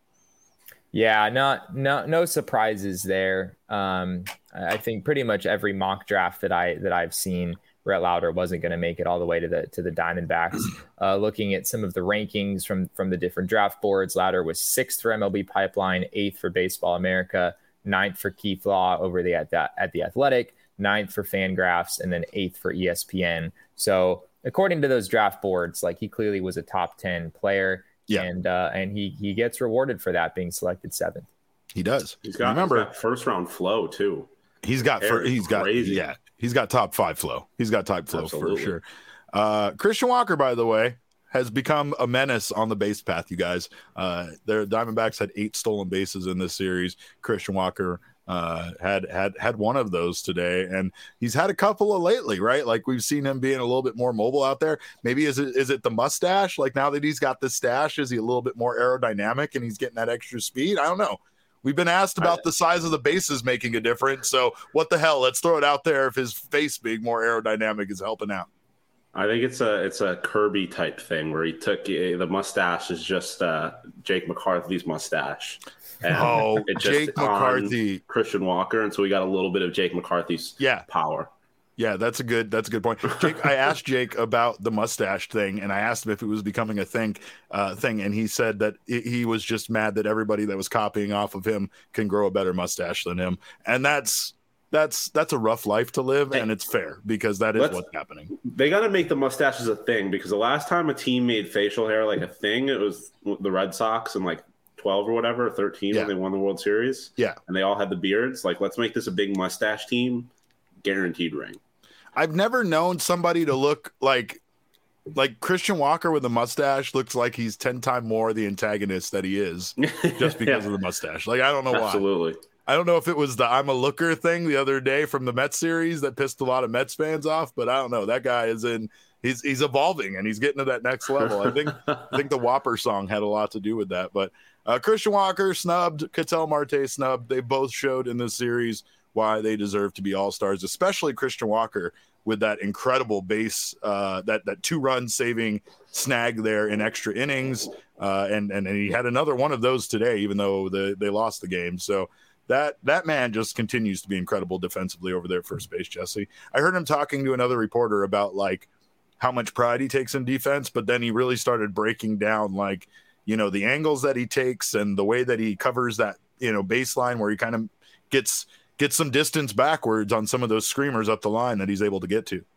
Yeah, not no no surprises there. Um, I think pretty much every mock draft that I that I've seen, Rhett Loader wasn't going to make it all the way to the to the Diamondbacks. Uh, looking at some of the rankings from from the different draft boards, Loader was sixth for M L B Pipeline, eighth for Baseball America, ninth for Keith Law over the at the, at the Athletic, ninth for Fangraphs, and then eighth for E S P N. So according to those draft boards, like he clearly was a top ten player. Yeah. And uh, and he he gets rewarded for that, being selected seventh. He does. He's got, Remember, he's got first round flow too. He's got for, he's crazy. got yeah he's got top five flow. He's got top flow Absolutely. for sure. Uh, Christian Walker, by the way, has become a menace on the base path. You guys, uh, their Diamondbacks had eight stolen bases in this series. Christian Walker uh had had had one of those today, and he's had a couple of lately, right? Like we've seen him being a little bit more mobile out there. Maybe is it is it the mustache? Like now that he's got the stash, is he a little bit more aerodynamic and he's getting that extra speed? I don't know. We've been asked about I, the size of the bases making a difference, so what the hell, let's throw it out there if his face being more aerodynamic is helping out. I think it's a it's a Kirby type thing where he took the mustache is just uh Jake McCarthy's mustache. And oh, it just Jake McCarthy, Christian Walker, and so we got a little bit of Jake McCarthy's yeah. power. Yeah, that's a good that's a good point. Jake, I asked Jake about the mustache thing, and I asked him if it was becoming a thing, uh, thing, and he said that it, he was just mad that everybody that was copying off of him can grow a better mustache than him, and that's that's that's a rough life to live, and it's fair because that is Let's, what's happening. They got to make the mustaches a thing because the last time a team made facial hair like a thing, it was the Red Sox and like twelve or whatever, thirteen yeah. when they won the World Series. Yeah. And they all had the beards. Like, let's make this a big mustache team. Guaranteed ring. I've never known somebody to look like like Christian Walker with a mustache looks like he's ten times more the antagonist that he is just because yeah. of the mustache. Like, I don't know why. Absolutely. I don't know if it was the I'm a looker thing the other day from the Mets series that pissed a lot of Mets fans off, but I don't know. That guy is in he's he's evolving and he's getting to that next level. I think I think the Whopper song had a lot to do with that. But uh, Christian Walker snubbed, Ketel Marte snubbed. They both showed in this series why they deserve to be all-stars, especially Christian Walker with that incredible base, uh, that that two-run saving snag there in extra innings. Uh, and, and and he had another one of those today, even though the, they lost the game. So that that man just continues to be incredible defensively over there at first base, Jesse. I heard him talking to another reporter about, like, how much pride he takes in defense, but then he really started breaking down, like, you know, the angles that he takes and the way that he covers that, you know, baseline where he kind of gets gets some distance backwards on some of those screamers up the line that he's able to get to.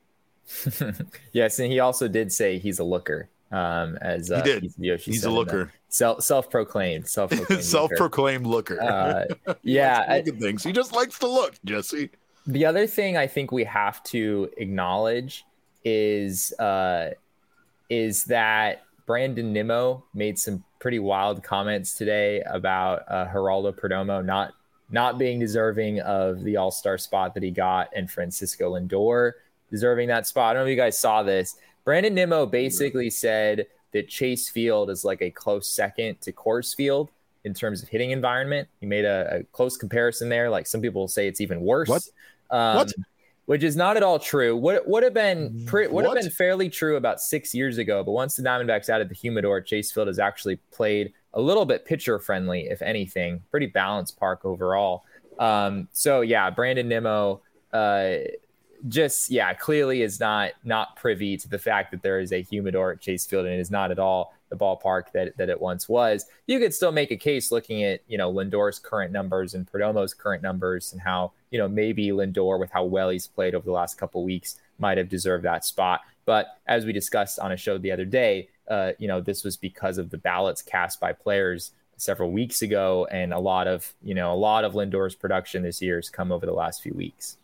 Yes, and he also did say he's a looker. Um, as uh, he did, he's, he's a looker, self self-proclaimed, self-proclaimed, self-proclaimed looker. Uh, yeah, look at things. He just likes to look, Jesse. The other thing I think we have to acknowledge is uh, is that Brandon Nimmo made some pretty wild comments today about uh, Geraldo Perdomo not not being deserving of the All-Star spot that he got, and Francisco Lindor deserving that spot. I don't know if you guys saw this. Brandon Nimmo basically said that Chase Field is like a close second to Coors Field, in terms of hitting environment. He made a, a close comparison there. Like some people say it's even worse. What? Um, what? Which is not at all true. Would would have been pre- would What? have been fairly true about six years ago. But once the Diamondbacks added the humidor, Chase Field has actually played a little bit pitcher friendly, if anything. Pretty balanced park overall. Um, so yeah, Brandon Nimmo, uh, just yeah, clearly is not not privy to the fact that there is a humidor at Chase Field, and it is not at all the ballpark that that it once was. You could still make a case looking at, you know, Lindor's current numbers and Perdomo's current numbers and how, you know, maybe Lindor, with how well he's played over the last couple of weeks, might have deserved that spot. But as we discussed on a show the other day, uh, you know, this was because of the ballots cast by players several weeks ago, and a lot of, you know, a lot of Lindor's production this year has come over the last few weeks.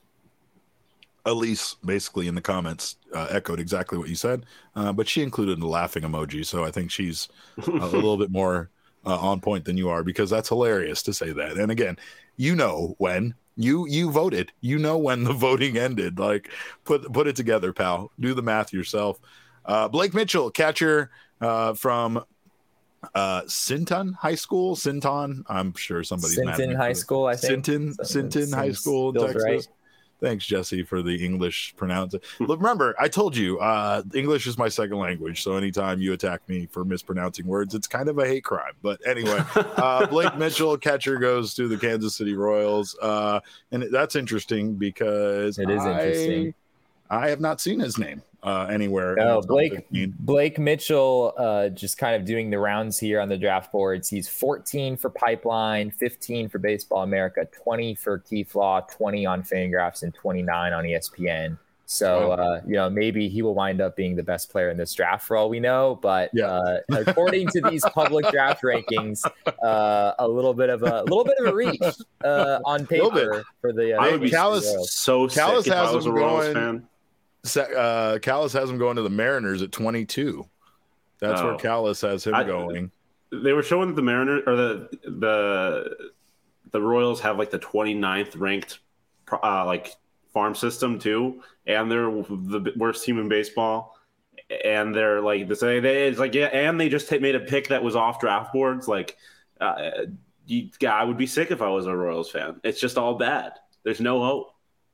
Elise basically in the comments uh, echoed exactly what you said, uh, but she included the laughing emoji. So I think she's a little bit more uh, on point than you are, because that's hilarious to say that. And again, you know, when you you voted, you know when the voting ended. Like, put put it together, pal. Do the math yourself. Uh, Blake Mitchell, catcher uh, from uh, Sinton High School. Sinton, I'm sure somebody's mad at me Sinton for High that. School, I think. Sinton, Sinton High Seems- School in feels Texas. right. Thanks, Jesse, for the English pronounce it. Look, remember, I told you, uh, English is my second language. So anytime you attack me for mispronouncing words, it's kind of a hate crime. But anyway, uh, Blake Mitchell, catcher, goes to the Kansas City Royals. Uh, and that's interesting because It is I, interesting. I have not seen his name uh, anywhere. No, in the top Blake fifteen. Blake Mitchell, uh, just kind of doing the rounds here on the draft boards. He's fourteen for Pipeline, fifteen for Baseball America, twenty for Keith Law, twenty on Fangraphs, and twenty-nine on E S P N. So, uh, you know, maybe he will wind up being the best player in this draft for all we know. But Yeah. uh, according to these public draft rankings, uh, a little bit of a, a little bit of a reach uh, on paper for the. Uh, I would be Callis- Royals. so Callis sick if has I was a him Royals going- fan. Sa- Uh, Callis has him going to the Mariners at twenty-two. That's Oh. where Callis has him I- going. They were showing that the Mariners or the the the Royals have like the twenty-ninth ranked uh, like farm system too, and they're the worst team in baseball. And they're like this. They it's like yeah, and they just made a pick that was off draft boards. Like, uh, you, yeah, I would be sick if I was a Royals fan. It's just all bad. There's no hope.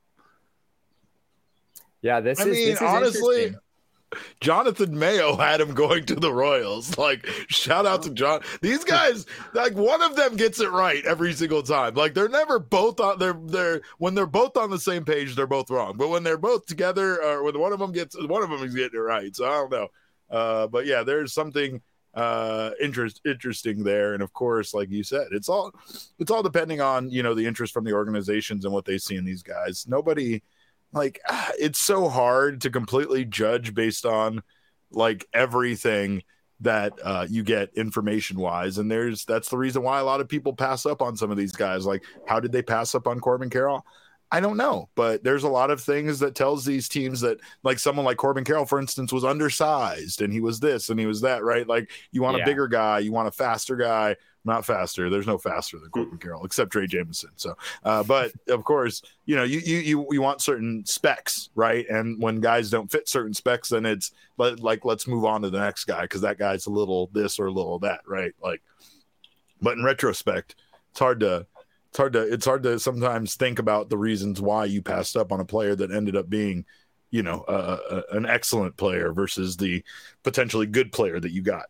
Yeah, this I is, mean, this is honestly, interesting. Jonathan Mayo had him going to the Royals. Like, shout out to John. These guys, like, one of them gets it right every single time. Like, they're never both on. They're they're when they're both on the same page, they're both wrong. But when they're both together, or when one of them gets one of them is getting it right. So I don't know. Uh, but yeah, there's something uh interest interesting there. And of course, like you said, it's all it's all depending on, you know, the interest from the organizations and what they see in these guys. Nobody. Like, it's so hard to completely judge based on like everything that uh, you get information wise. And there's that's the reason why a lot of people pass up on some of these guys. Like, how did they pass up on Corbin Carroll? I don't know, but there's a lot of things that tells these teams that, like, someone like Corbin Carroll, for instance, was undersized and he was this and he was that, right? Like, you want Yeah. a bigger guy, you want a faster guy. Not faster. There's no faster than Corbin Carroll, except Trey Jameson. So, uh, but of course, you know, you, you you you want certain specs, right? And when guys don't fit certain specs, then it's like, like let's move on to the next guy because that guy's a little this or a little that, right? Like, but in retrospect, it's hard to it's hard to it's hard to sometimes think about the reasons why you passed up on a player that ended up being, you know, uh, a, an excellent player versus the potentially good player that you got.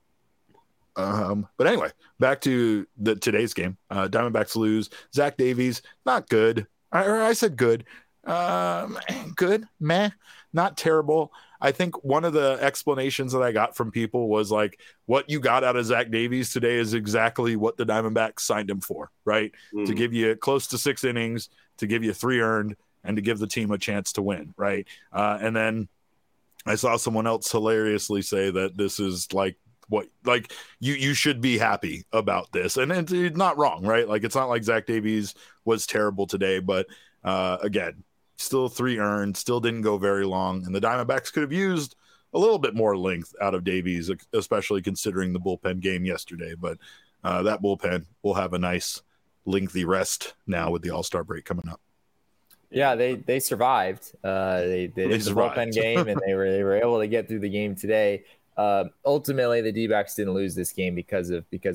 Um, but anyway, back to the today's game. Uh, Diamondbacks lose. Zach Davies, not good. I, or I said good. Um, good, meh, not terrible. I think one of the explanations that I got from people was like, what you got out of Zach Davies today is exactly what the Diamondbacks signed him for, right? Mm. To give you close to six innings, to give you three earned, and to give the team a chance to win, right? Uh, and then I saw someone else hilariously say that this is like, what like you you should be happy about this, and it's, it's not wrong, right? Like, it's not like Zach Davies was terrible today, but uh again, still three earned, still didn't go very long, and the Diamondbacks could have used a little bit more length out of Davies, especially considering the bullpen game yesterday. But uh that bullpen will have a nice lengthy rest now with the All-Star break coming up. Yeah, they they survived. Uh, they they did the survived. bullpen game, and they were they were able to get through the game today. Uh, ultimately, the D-backs didn't lose this game because of because of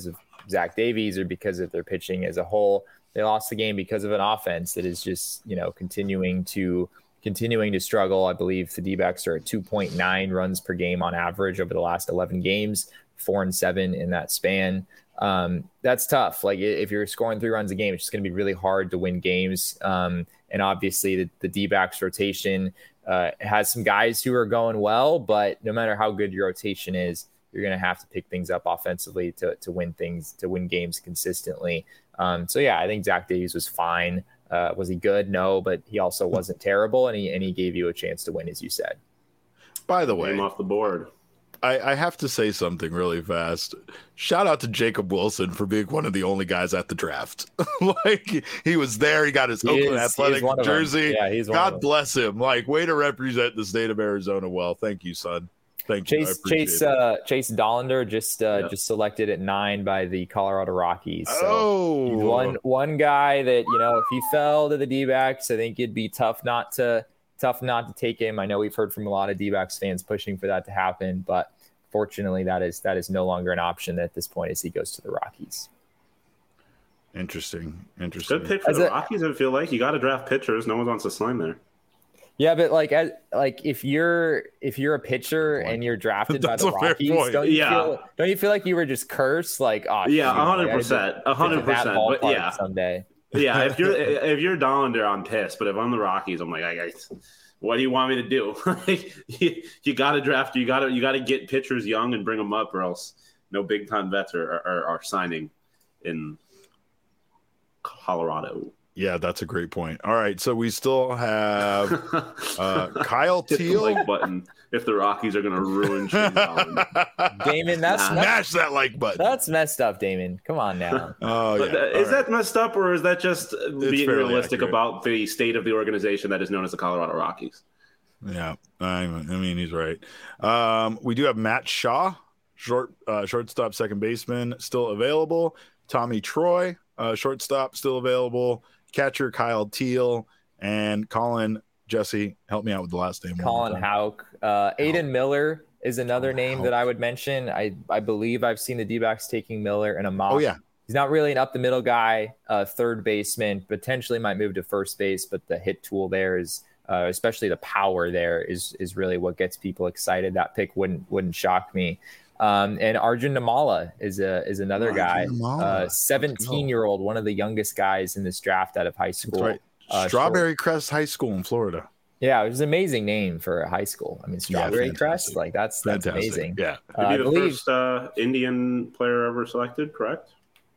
Zach Davies or because of their pitching as a whole. They lost the game because of an offense that is just, you know, continuing to continuing to struggle. I believe the D-backs are at two point nine runs per game on average over the last eleven games, four and seven in that span. Um, that's tough. Like if you're scoring three runs a game, it's just going to be really hard to win games. Um, and obviously the, the D-backs rotation uh, has some guys who are going well, but no matter how good your rotation is, you're going to have to pick things up offensively to, to win things, to win games consistently. Um, so yeah, I think Zach Davies was fine. Uh, was he good? No, but he also wasn't terrible, and he and he gave you a chance to win, as you said. By the way, Name off the board. I, I have to say something really fast. Shout out to Jacob Wilson for being one of the only guys at the draft. Like he was there, he got his he Oakland is, Athletic jersey. Yeah, he's God bless him. Like way to represent the state of Arizona well. Thank you, son. Thank you. Chase Chase uh, Chase Dollander just uh, yeah. just selected at nine by the Colorado Rockies. So oh, he's one one guy that, you know, if he fell to the D-backs, I think it'd be tough not to tough not to take him. I know we've heard from a lot of D-backs fans pushing for that to happen, but fortunately, that is that is no longer an option at this point as he goes to the Rockies. Interesting, interesting. Good pick for As the a, Rockies. I feel like you got to draft pitchers. No one wants to sign there. Yeah, but like, as, like if you're if you're a pitcher and you're drafted by the Rockies, don't you yeah. feel don't you feel like you were just cursed? Like, oh, yeah, a hundred percent, a hundred percent. But yeah, someday. Yeah, if you're if you're Dollander, I'm pissed. But if I'm the Rockies, I'm like, I, I what do you want me to do? you you got to draft. You got to you got to get pitchers young and bring them up, or else no big time vets are, are, are signing in Colorado. Yeah, that's a great point. All right, so we still have uh, Kyle Teal. Like button if the Rockies are going to ruin Shane Dollander. Damon, that's nah. Smash that like button. That's messed up, Damon. Come on now. Oh, yeah. That, is right. that messed up, or is that just It's being realistic accurate. about the state of the organization that is known as the Colorado Rockies? Yeah, I, I mean he's right. Um, we do have Matt Shaw, short uh, shortstop, second baseman, still available. Tommy Troy, uh, shortstop, still available. Catcher Kyle Teal and Colin Jesse. Help me out with the last name. Colin Houck. Uh, Aiden Miller is another Colin name Houck. that I would mention. I, I believe I've seen the D-backs taking Miller in a mock. Oh, yeah. He's not really an up-the-middle guy, uh, third baseman, potentially might move to first base, but the hit tool there is, uh, especially the power there, is is really what gets people excited. That pick wouldn't wouldn't shock me. Um, and Arjun Namala is a is another Arjun guy, uh, seventeen-year-old, one of the youngest guys in this draft out of high school. Right. Uh, Strawberry short. Crest High School in Florida. Yeah, it was an amazing name for a high school. I mean, Strawberry yeah, Crest, like that's that's fantastic. amazing. Yeah, uh, uh, be the believe, first uh, Indian player ever selected, correct?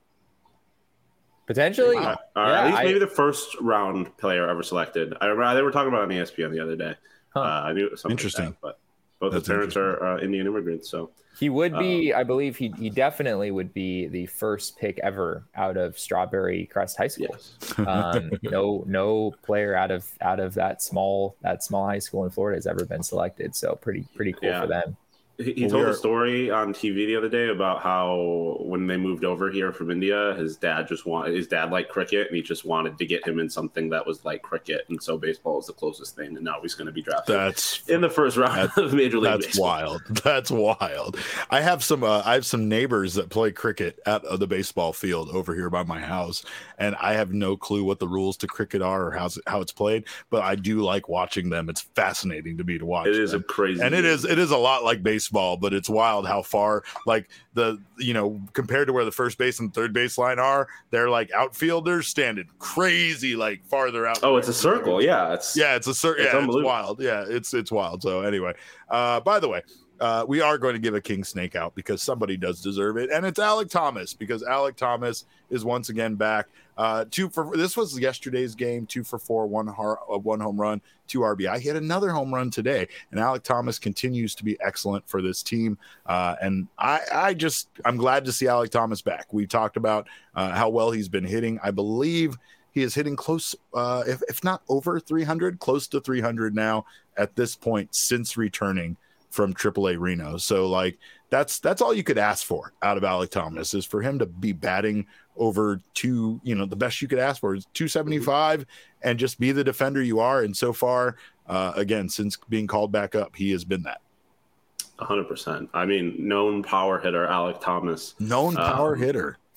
Potentially, uh, yeah, at least I, maybe the first round player ever selected. I remember they were talking about it on E S P N the other day. Huh. Uh, I knew it was something interesting, like that, but both That's the parents are uh, Indian immigrants, so. He would be, um, I believe he he definitely would be the first pick ever out of Strawberry Crest High School. Yes. um, no no player out of out of that small that small high school in Florida has ever been selected. So pretty pretty cool yeah. for them. He, he told a story on T V the other day about how when they moved over here from India, his dad just wanted his dad liked cricket, and he just wanted to get him in something that was like cricket, and so baseball is the closest thing. And now he's going to be drafted. That's in the first round of Major League That's Baseball. wild. That's wild. I have some. Uh, I have some neighbors that play cricket at uh, the baseball field over here by my house, and I have no clue what the rules to cricket are or how's it, how it's played. But I do like watching them. It's fascinating to me to watch. It is them. a crazy, and it is it is a lot like baseball, but it's wild how far, like the you know compared to where the first base and third base line are, they're like outfielders standing crazy like farther out. Oh, it's a circle. Yeah, it's yeah, it's a circle. Yeah, it's wild. Yeah, it's it's wild. So anyway, uh, by the way. Uh, we are going to give a king snake out because somebody does deserve it, and it's Alek Thomas because Alek Thomas is once again back. Uh, two for this was yesterday's game, two for four, one har- uh, one home run, two R B I. He had another home run today, and Alek Thomas continues to be excellent for this team. Uh, and I, I just I'm glad to see Alek Thomas back. We talked about uh, how well he's been hitting. I believe he is hitting close, uh, if if not over three hundred, close to three hundred now at this point since returning from triple A Reno. So like that's that's all you could ask for out of Alek Thomas is for him to be batting over two, you know, the best you could ask for is two seventy-five and just be the defender you are. And so far, uh, again, since being called back up, he has been that. one hundred percent. I mean, known power hitter Alek Thomas. Known power um, hitter.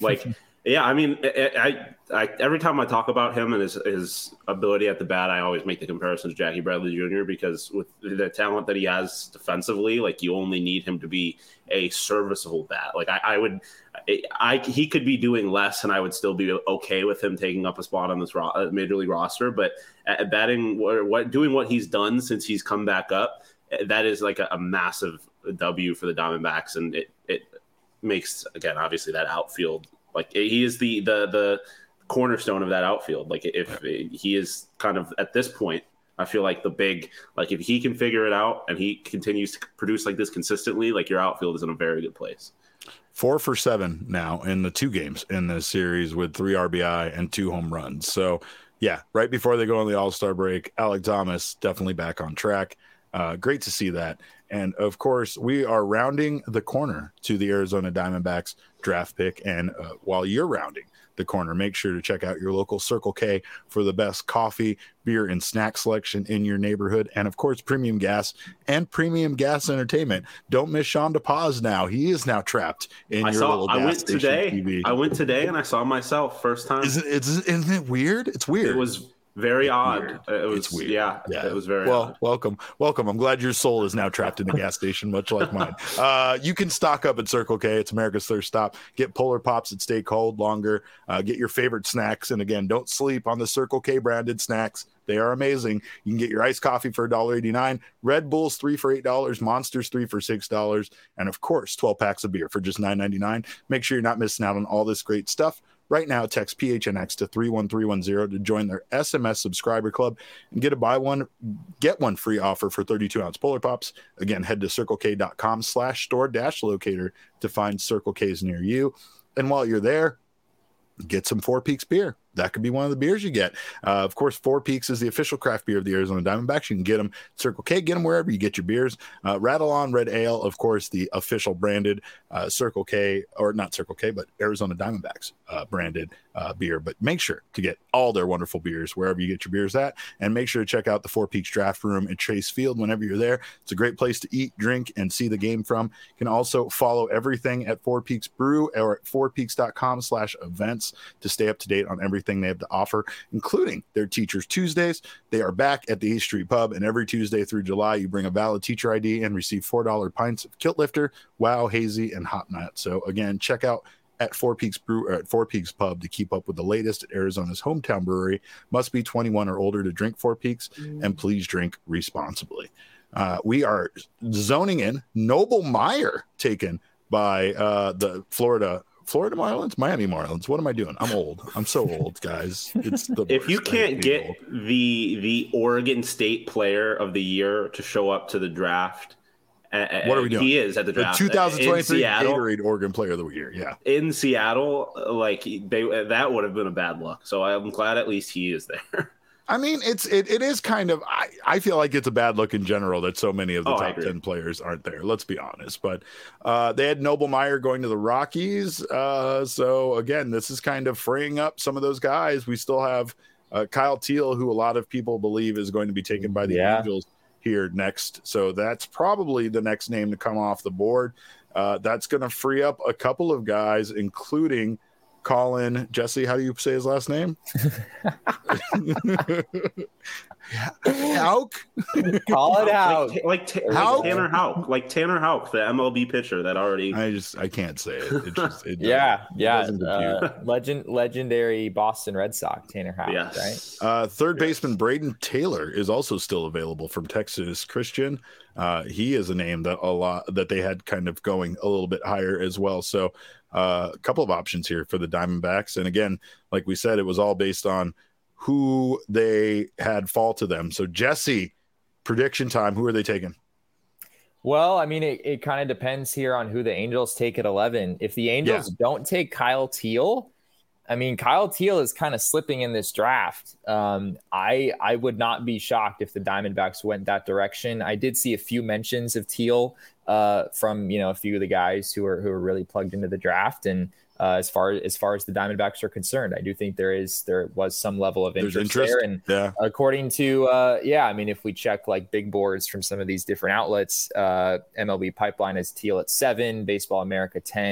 Like, yeah, I mean, I, I, I every time I talk about him and his his ability at the bat, I always make the comparison to Jackie Bradley Junior because with the talent that he has defensively, like you only need him to be a serviceable bat. Like I, I would, I, I he could be doing less, and I would still be okay with him taking up a spot on this ro- major league roster. But at batting, what, what doing what he's done since he's come back up, that is like a, a massive W for the Diamondbacks, and it it makes again obviously that outfield. Like he is the, the the cornerstone of that outfield. Like if he is kind of at this point, I feel like the big, like if he can figure it out and he continues to produce like this consistently, like your outfield is in a very good place. Four for seven now in the two games in this series with three R B I and two home runs. So yeah, right before they go on the All-Star break, Alek Thomas definitely back on track. Uh, great to see that. And of course, we are rounding the corner to the Arizona Diamondbacks draft pick. And uh, while you're rounding the corner, make sure to check out your local Circle K for the best coffee, beer, and snack selection in your neighborhood. And of course, premium gas and premium gas entertainment. Don't miss Sean DePaz now. He is now trapped in I your saw, little gas I went station today. T V. I went today and I saw myself first time. Isn't, isn't, isn't it weird? It's weird. It was very it's odd. Weird. It was it's weird. Yeah, yeah, it was very well. odd. Welcome, welcome. I'm glad your soul is now trapped in the gas station, much like mine. Uh, you can stock up at Circle K. It's America's thirst stop. Get Polar Pops that stay cold longer. Uh, get your favorite snacks, and again, don't sleep on the Circle K branded snacks. They are amazing. You can get your iced coffee for one dollar and eighty-nine cents, Red Bulls three for eight dollars, Monsters three for six dollars, and of course, twelve packs of beer for just nine ninety-nine. Make sure you're not missing out on all this great stuff. Right now, text P H N X to three one three one zero to join their S M S subscriber club and get a buy one, get one free offer for thirty-two ounce Polar Pops. Again, head to circlek.com slash store dash locator to find Circle K's near you. And while you're there, get some Four Peaks beer. That could be one of the beers you get. Uh, of course, Four Peaks is the official craft beer of the Arizona Diamondbacks. You can get them at Circle K, get them wherever you get your beers. Uh, Rattle On Red Ale, of course, the official branded uh, Circle K, or not Circle K, but Arizona Diamondbacks uh, branded uh, beer. But make sure to get all their wonderful beers wherever you get your beers at. And make sure to check out the Four Peaks Draft Room at Chase Field whenever you're there. It's a great place to eat, drink, and see the game from. You can also follow everything at Four Peaks Brew or at fourpeaks.com slash events to stay up to date on everything they have to offer, including their Teachers Tuesdays. They are back at the East Street Pub, and every Tuesday through July, you bring a valid teacher I D and receive four dollar pints of Kilt Lifter, Wow, Hazy, and Hot Nut. So again, check out at Four Peaks Brew or at Four Peaks Pub to keep up with the latest at Arizona's hometown brewery. Must be twenty-one or older to drink Four Peaks, and please drink responsibly. Uh, we are zoning in Noble Meyer taken by uh, the Florida Florida Marlins, Miami Marlins. What am I doing? I'm old. I'm so old, guys. It's the if you can't get old. the the Oregon State Player of the Year to show up to the draft, uh, what are we doing? He is at the draft. The twenty twenty-three Gatorade Oregon Player of the Year. Yeah, in Seattle, like they that would have been a bad look. So I'm glad at least he is there. I mean, it's it, it is kind of I, I feel like it's a bad look in general that so many of the oh, top ten players aren't there. Let's be honest. But uh, they had Noble Meyer going to the Rockies. Uh, so again, this is kind of freeing up some of those guys. We still have uh, Kyle Teal, who a lot of people believe is going to be taken by the yeah. Angels here next. So that's probably the next name to come off the board. Uh, that's going to free up a couple of guys, including Colin Jesse. How do you say his last name? Houck. Colin Houck. Like, like, t- like Tanner Houck. Like Tanner Houck, the M L B pitcher that already. I just I can't say it. It just it yeah, yeah. It uh, legend, legendary Boston Red Sox Tanner Houck. Yes. Right. Uh, third yes. baseman Braden Taylor is also still available from Texas Christian. Uh, he is a name that a lot that they had kind of going a little bit higher as well. So. Uh, a couple of options here for the Diamondbacks. And again, like we said, it was all based on who they had fall to them. So Jesse, prediction time, who are they taking? Well, I mean, it, it kind of depends here on who the Angels take at eleven. If the Angels yeah. don't take Kyle Teal, I mean, Kyle Teal is kind of slipping in this draft. Um, I I would not be shocked if the Diamondbacks went that direction. I did see a few mentions of Teal uh, from you know a few of the guys who are who are really plugged into the draft. And uh, as far as far as the Diamondbacks are concerned, I do think there is there was some level of interest, interest. there. And yeah. according to uh, yeah, I mean, if we check like big boards from some of these different outlets, uh, M L B Pipeline has Teal at seven, Baseball America ten.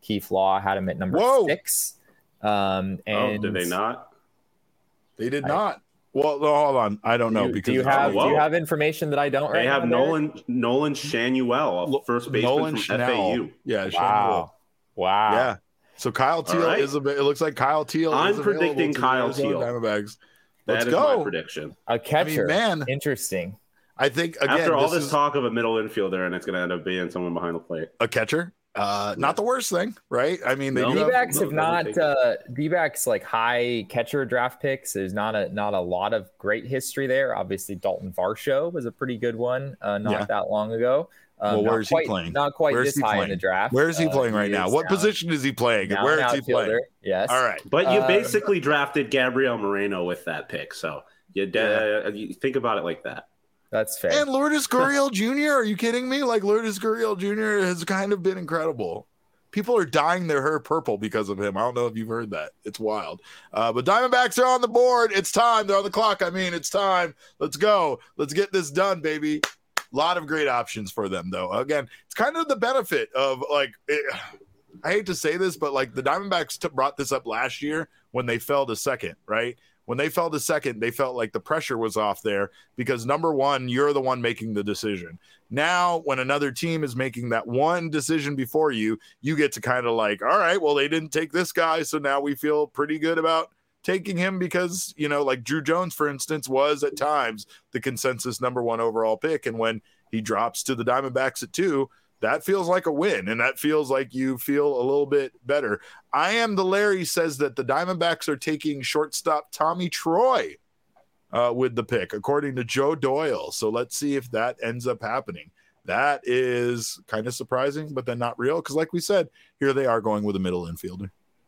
Keith Law had him at number Whoa. six. Um, and oh, did they not? They did I, not. Well, no, hold on. I don't know do, because do you have oh, do you have information that I don't? They right have now, Nolan there? Nolan Shanuel, a first baseman Nolan from Schnell. F A U. Yeah, Wow, Shanuel. wow. Yeah. So Kyle Teal right. is a bit. It looks like Kyle Teal. I'm is predicting to Kyle the Arizona Teal. Diamondbacks. That Let's is go. my prediction. A catcher, I mean, man. Interesting. I think again, After all this, this is talk of a middle infielder, and it's going to end up being someone behind the plate. a catcher. Uh, not the worst thing, right? I mean, they No. do D-backs have, have not uh, D-backs like high catcher draft picks. There's not a not a lot of great history there. Obviously, Dalton Varsho was a pretty good one uh, not Yeah. that long ago. Um, well, where not is quite, he playing? Not quite Where is this he high playing? in the draft. Where is he Uh, playing right he now? is What now- position is he playing? now Where an is he playing? outfielder, Yes. All right. But you Um, basically drafted Gabriel Moreno with that pick, so you, Yeah. uh, you think about it like that. That's fair. And Lourdes Gurriel Junior Are you kidding me? Like Lourdes Gurriel Junior has kind of been incredible. People are dyeing their hair purple because of him. I don't know if you've heard that. It's wild. Uh, but Diamondbacks are on the board. It's time. They're on the clock. I mean, it's time. Let's go. Let's get this done, baby. A lot of great options for them, though. Again, it's kind of the benefit of like, it, I hate to say this, but like the Diamondbacks t- brought this up last year when they fell to second, right? When they fell to second, they felt like the pressure was off there because number one, you're the one making the decision. Now, when another team is making that one decision before you, you get to kind of like, all right, well, they didn't take this guy. So now we feel pretty good about taking him because, you know, like Drew Jones, for instance, was at times the consensus number one overall pick. And when he drops to the Diamondbacks at two, that feels like a win, and that feels like you feel a little bit better. I am the Larry says that the Diamondbacks are taking shortstop Tommy Troy uh, with the pick, according to Joe Doyle. So let's see if that ends up happening. That is kind of surprising, but then not real because, like we said, here they are going with a middle infielder.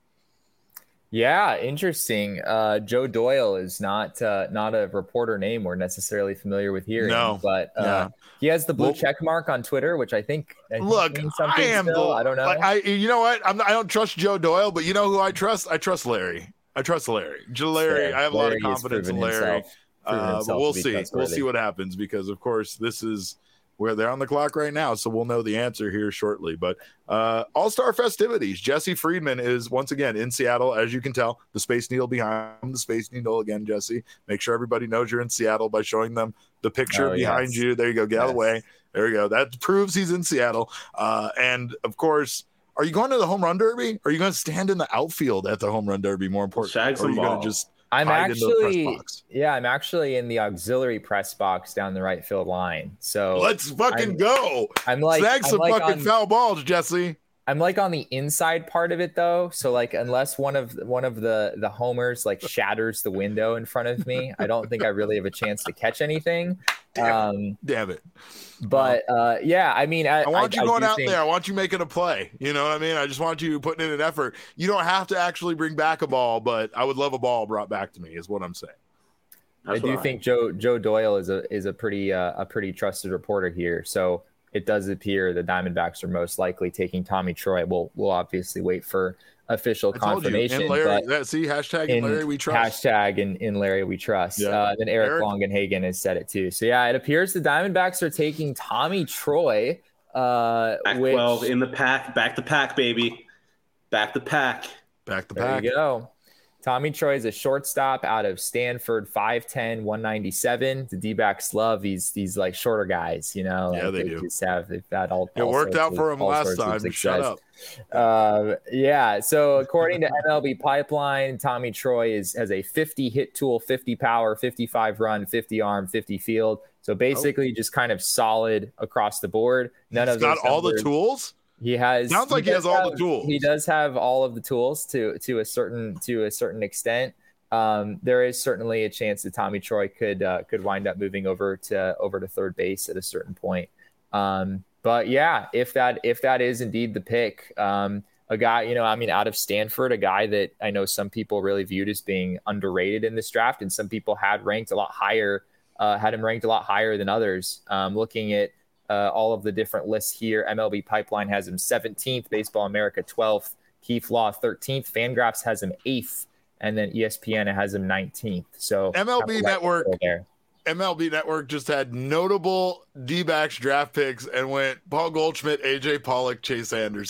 Yeah, interesting. Uh, Joe Doyle is not uh, not a reporter name we're necessarily familiar with here. No, but uh, yeah. he has the blue Well, check mark on Twitter, which I think I think Look, means something I am still. the, I don't know. Like, I, you know what? I'm, I don't trust Joe Doyle, but you know who I trust? I trust Larry. I trust Larry. Joe Larry. Fair. I have a Larry lot of has confidence in proven Larry. himself- proven Uh, but himself we'll to be see. We'll trustworthy. see what happens because, of course, this is where they're on the clock right now. So we'll know the answer here shortly. But uh, All-Star festivities. Jesse Friedman is once again in Seattle, as you can tell. The Space Needle behind the Space Needle again, Jesse. Make sure everybody knows you're in Seattle by showing them the picture Oh, behind yes. you. There you go. Get out of the Yes. way. There you go. That proves he's in Seattle. Uh, and, of course, are you going to the home run derby? Or are you going to stand in the outfield at the home run derby, more important? Shag Or are some you going ball. to just I'm hide in the press actually box? yeah, I'm actually in the auxiliary press box down the right field line. So Let's fucking I'm- go. I'm like Snag I'm some like fucking on, foul balls, Jesse. I'm like on the inside part of it though. So like unless one of one of the the homers like shatters the window in front of me, I don't think I really have a chance to catch anything. Damn Um, Damn it. but uh, yeah, I mean, I, I want I, you going I do out think, there. I want you making a play. You know what I mean? I just want you putting in an effort. You don't have to actually bring back a ball, but I would love a ball brought back to me, is what I'm saying. That's I do what think Joe Joe Doyle is a is a pretty uh, a pretty trusted reporter here. So it does appear the Diamondbacks are most likely taking Tommy Troy. We'll we'll obviously wait for official I told you. confirmation. In Larry, but that, see, hashtag in in Larry we trust. hashtag in, in Larry we trust. Yeah. Uh, then Eric, Eric- Longenhagen has said it too. So yeah, it appears the Diamondbacks are taking Tommy Troy. Uh, Pac which, twelve in the pack, back the pack, baby, back the pack. Back the There pack. you go. Tommy Troy is a shortstop out of Stanford, five ten, one ninety-seven. The D-backs love these these like shorter guys, you know. Yeah, like, they do. Just have they've had all. It all worked sorts out of- for him all last sorts of time. Shut success. up. Uh, yeah. So according to M L B Pipeline, Tommy Troy is has a fifty hit tool, fifty power, fifty-five run, fifty arm, fifty field. So basically, just kind of solid across the board. None He's of got those all the numbers- tools. He has. Sounds like he does has all the have- tools. He does have all of the tools to to a certain to a certain extent. Um, there is certainly a chance that Tommy Troy could uh, could wind up moving over to over to third base at a certain point. Um, but yeah, if that if that is indeed the pick, um, a guy, you know, I mean, out of Stanford, a guy that I know some people really viewed as being underrated in this draft, and some people had ranked a lot higher, uh, had him ranked a lot higher than others. Um, looking at uh, all of the different lists here, M L B Pipeline has him seventeenth, Baseball America twelfth, Keith Law thirteenth, Fangraphs has him eighth. And then E S P N has him nineteenth. So M L B Network there. M L B Network just had notable D-backs draft picks and went Paul Goldschmidt, A J Pollock, Chase Anderson.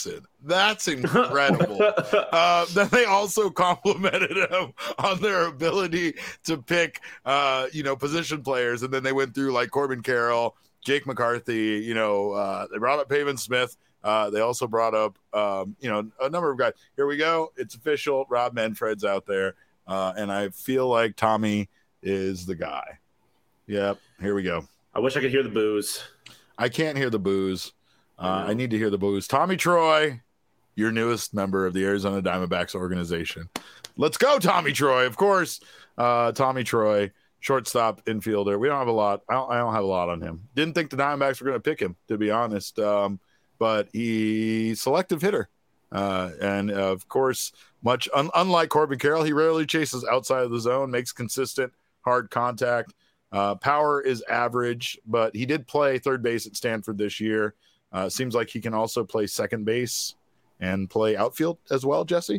That's incredible. uh, then they also complimented him on their ability to pick, uh, you know, position players. And then they went through like Corbin Carroll, Jake McCarthy, you know, uh, they brought up Pavin Smith. Uh, they also brought up, um, you know, a number of guys. Here we go. It's official. Rob Manfred's out there. Uh, and I feel like Tommy is the guy. Yep. Here we go. I wish I could hear the boos. I can't hear the boos. Uh, I, I need to hear the boos. Tommy Troy, your newest member of the Arizona Diamondbacks organization. Let's go, Tommy Troy. Of course, uh, Tommy Troy, shortstop, infielder. We don't have a lot. I don't, I don't have a lot on him. Didn't think the Diamondbacks were going to pick him, to be honest. Um, but he's selective hitter. Uh, and, uh, of course, much un- unlike Corbin Carroll, he rarely chases outside of the zone, makes consistent, hard contact. Uh, power is average, but he did play third base at Stanford this year. Uh, seems like he can also play second base and play outfield as well, Jesse?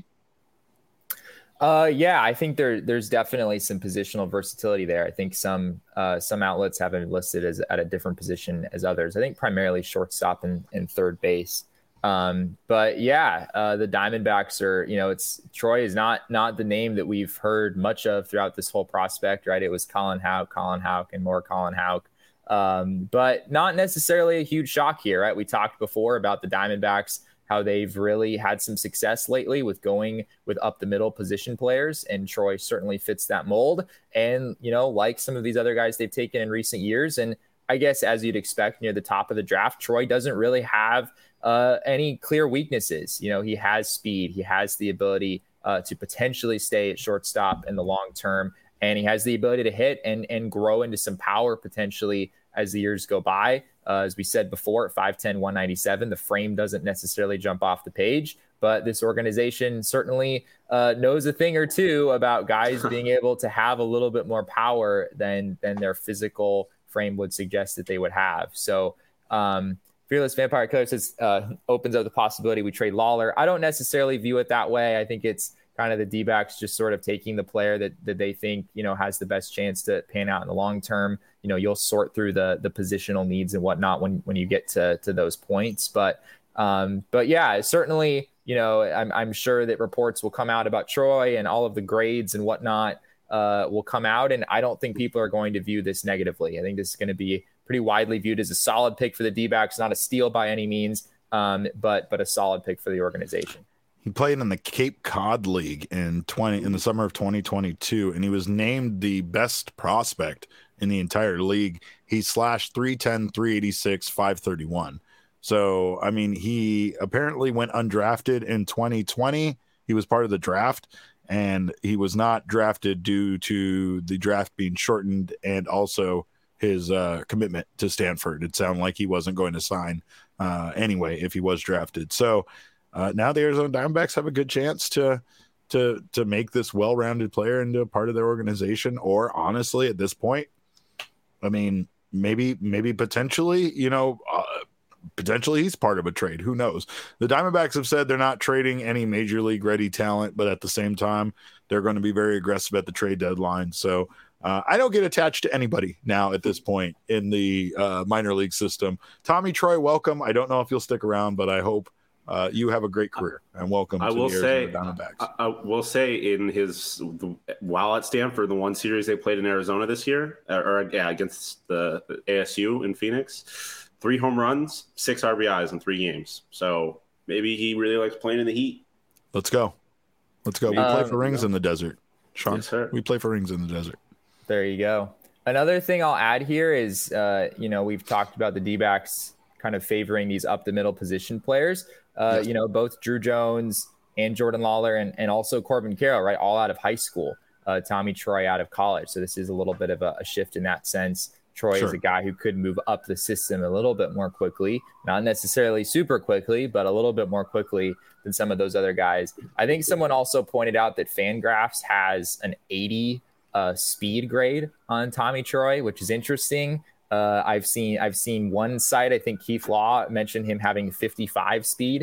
Uh, yeah, I think there there's definitely some positional versatility there. I think some uh, some outlets have him listed as at a different position as others. I think primarily shortstop and, and third base. Um, but yeah, uh, the Diamondbacks are, you know, it's Troy is not not the name that we've heard much of throughout this whole prospect, right? It was Colin Houck, Colin Houck, and more Colin Houck. Um, but not necessarily a huge shock here, right? We talked before about the Diamondbacks, how they've really had some success lately with going with up the middle position players. And Troy certainly fits that mold. And, you know, like some of these other guys they've taken in recent years. And I guess as you'd expect near the top of the draft, Troy doesn't really have uh, any clear weaknesses. You know, he has speed. He has the ability uh, to potentially stay at shortstop in the long term. And he has the ability to hit and, and grow into some power potentially as the years go by. Uh, as we said before, at five ten, one ninety-seven, the frame doesn't necessarily jump off the page, but this organization certainly uh, knows a thing or two about guys being able to have a little bit more power than than their physical frame would suggest that they would have. So um, Fearless Vampire Killer says, uh, opens up the possibility we trade Lawler. I don't necessarily view it that way. I think it's kind of the D-backs just sort of taking the player that, that they think, you know, has the best chance to pan out in the long term. You know, you'll sort through the the positional needs and whatnot when, when you get to, to those points. But, um, but yeah, certainly, you know, I'm, I'm sure that reports will come out about Troy and all of the grades and whatnot uh, will come out. And I don't think people are going to view this negatively. I think this is going to be pretty widely viewed as a solid pick for the D-backs, not a steal by any means, um, but, but a solid pick for the organization. He played in the Cape Cod League in twenty in the summer of twenty twenty-two, and he was named the best prospect in the entire league. He slashed three ten, three eighty-six, five thirty-one. So, I mean, he apparently went undrafted in twenty twenty. He was part of the draft, and he was not drafted due to the draft being shortened and also his uh, commitment to Stanford. It sounded like he wasn't going to sign uh, anyway if he was drafted. So, Uh, now the Arizona Diamondbacks have a good chance to to to make this well-rounded player into a part of their organization. Or honestly, at this point, I mean, maybe maybe potentially, you know, uh, potentially he's part of a trade. Who knows? The Diamondbacks have said they're not trading any major league ready talent, but at the same time, they're going to be very aggressive at the trade deadline. So uh, I don't get attached to anybody now at this point in the uh, minor league system. Tommy Troy, welcome. I don't know if you'll stick around, but I hope Uh, you have a great career and welcome I to will the say, Arizona Diamondbacks. I, I will say in his while at Stanford, the one series they played in Arizona this year, or, or yeah, against the, the A S U in Phoenix, three home runs, six R B Is in three games. So maybe he really likes playing in the heat. Let's go. Let's go. We um, play for rings in the desert. Sean, yes, sir. We play for rings in the desert. There you go. Another thing I'll add here is, uh, you know, we've talked about the D-backs kind of favoring these up the middle position players. Uh, yes. You know, both Drew Jones and Jordan Lawler and, and also Corbin Carroll, right, all out of high school. Uh, Tommy Troy out of college. So this is a little bit of a, a shift in that sense. Troy sure. is a guy who could move up the system a little bit more quickly, not necessarily super quickly, but a little bit more quickly than some of those other guys. I think someone also pointed out that Fangraphs has an eighty uh, speed grade on Tommy Troy, which is interesting. Uh, I've seen I've seen one site, I think Keith Law mentioned him having fifty-five speed,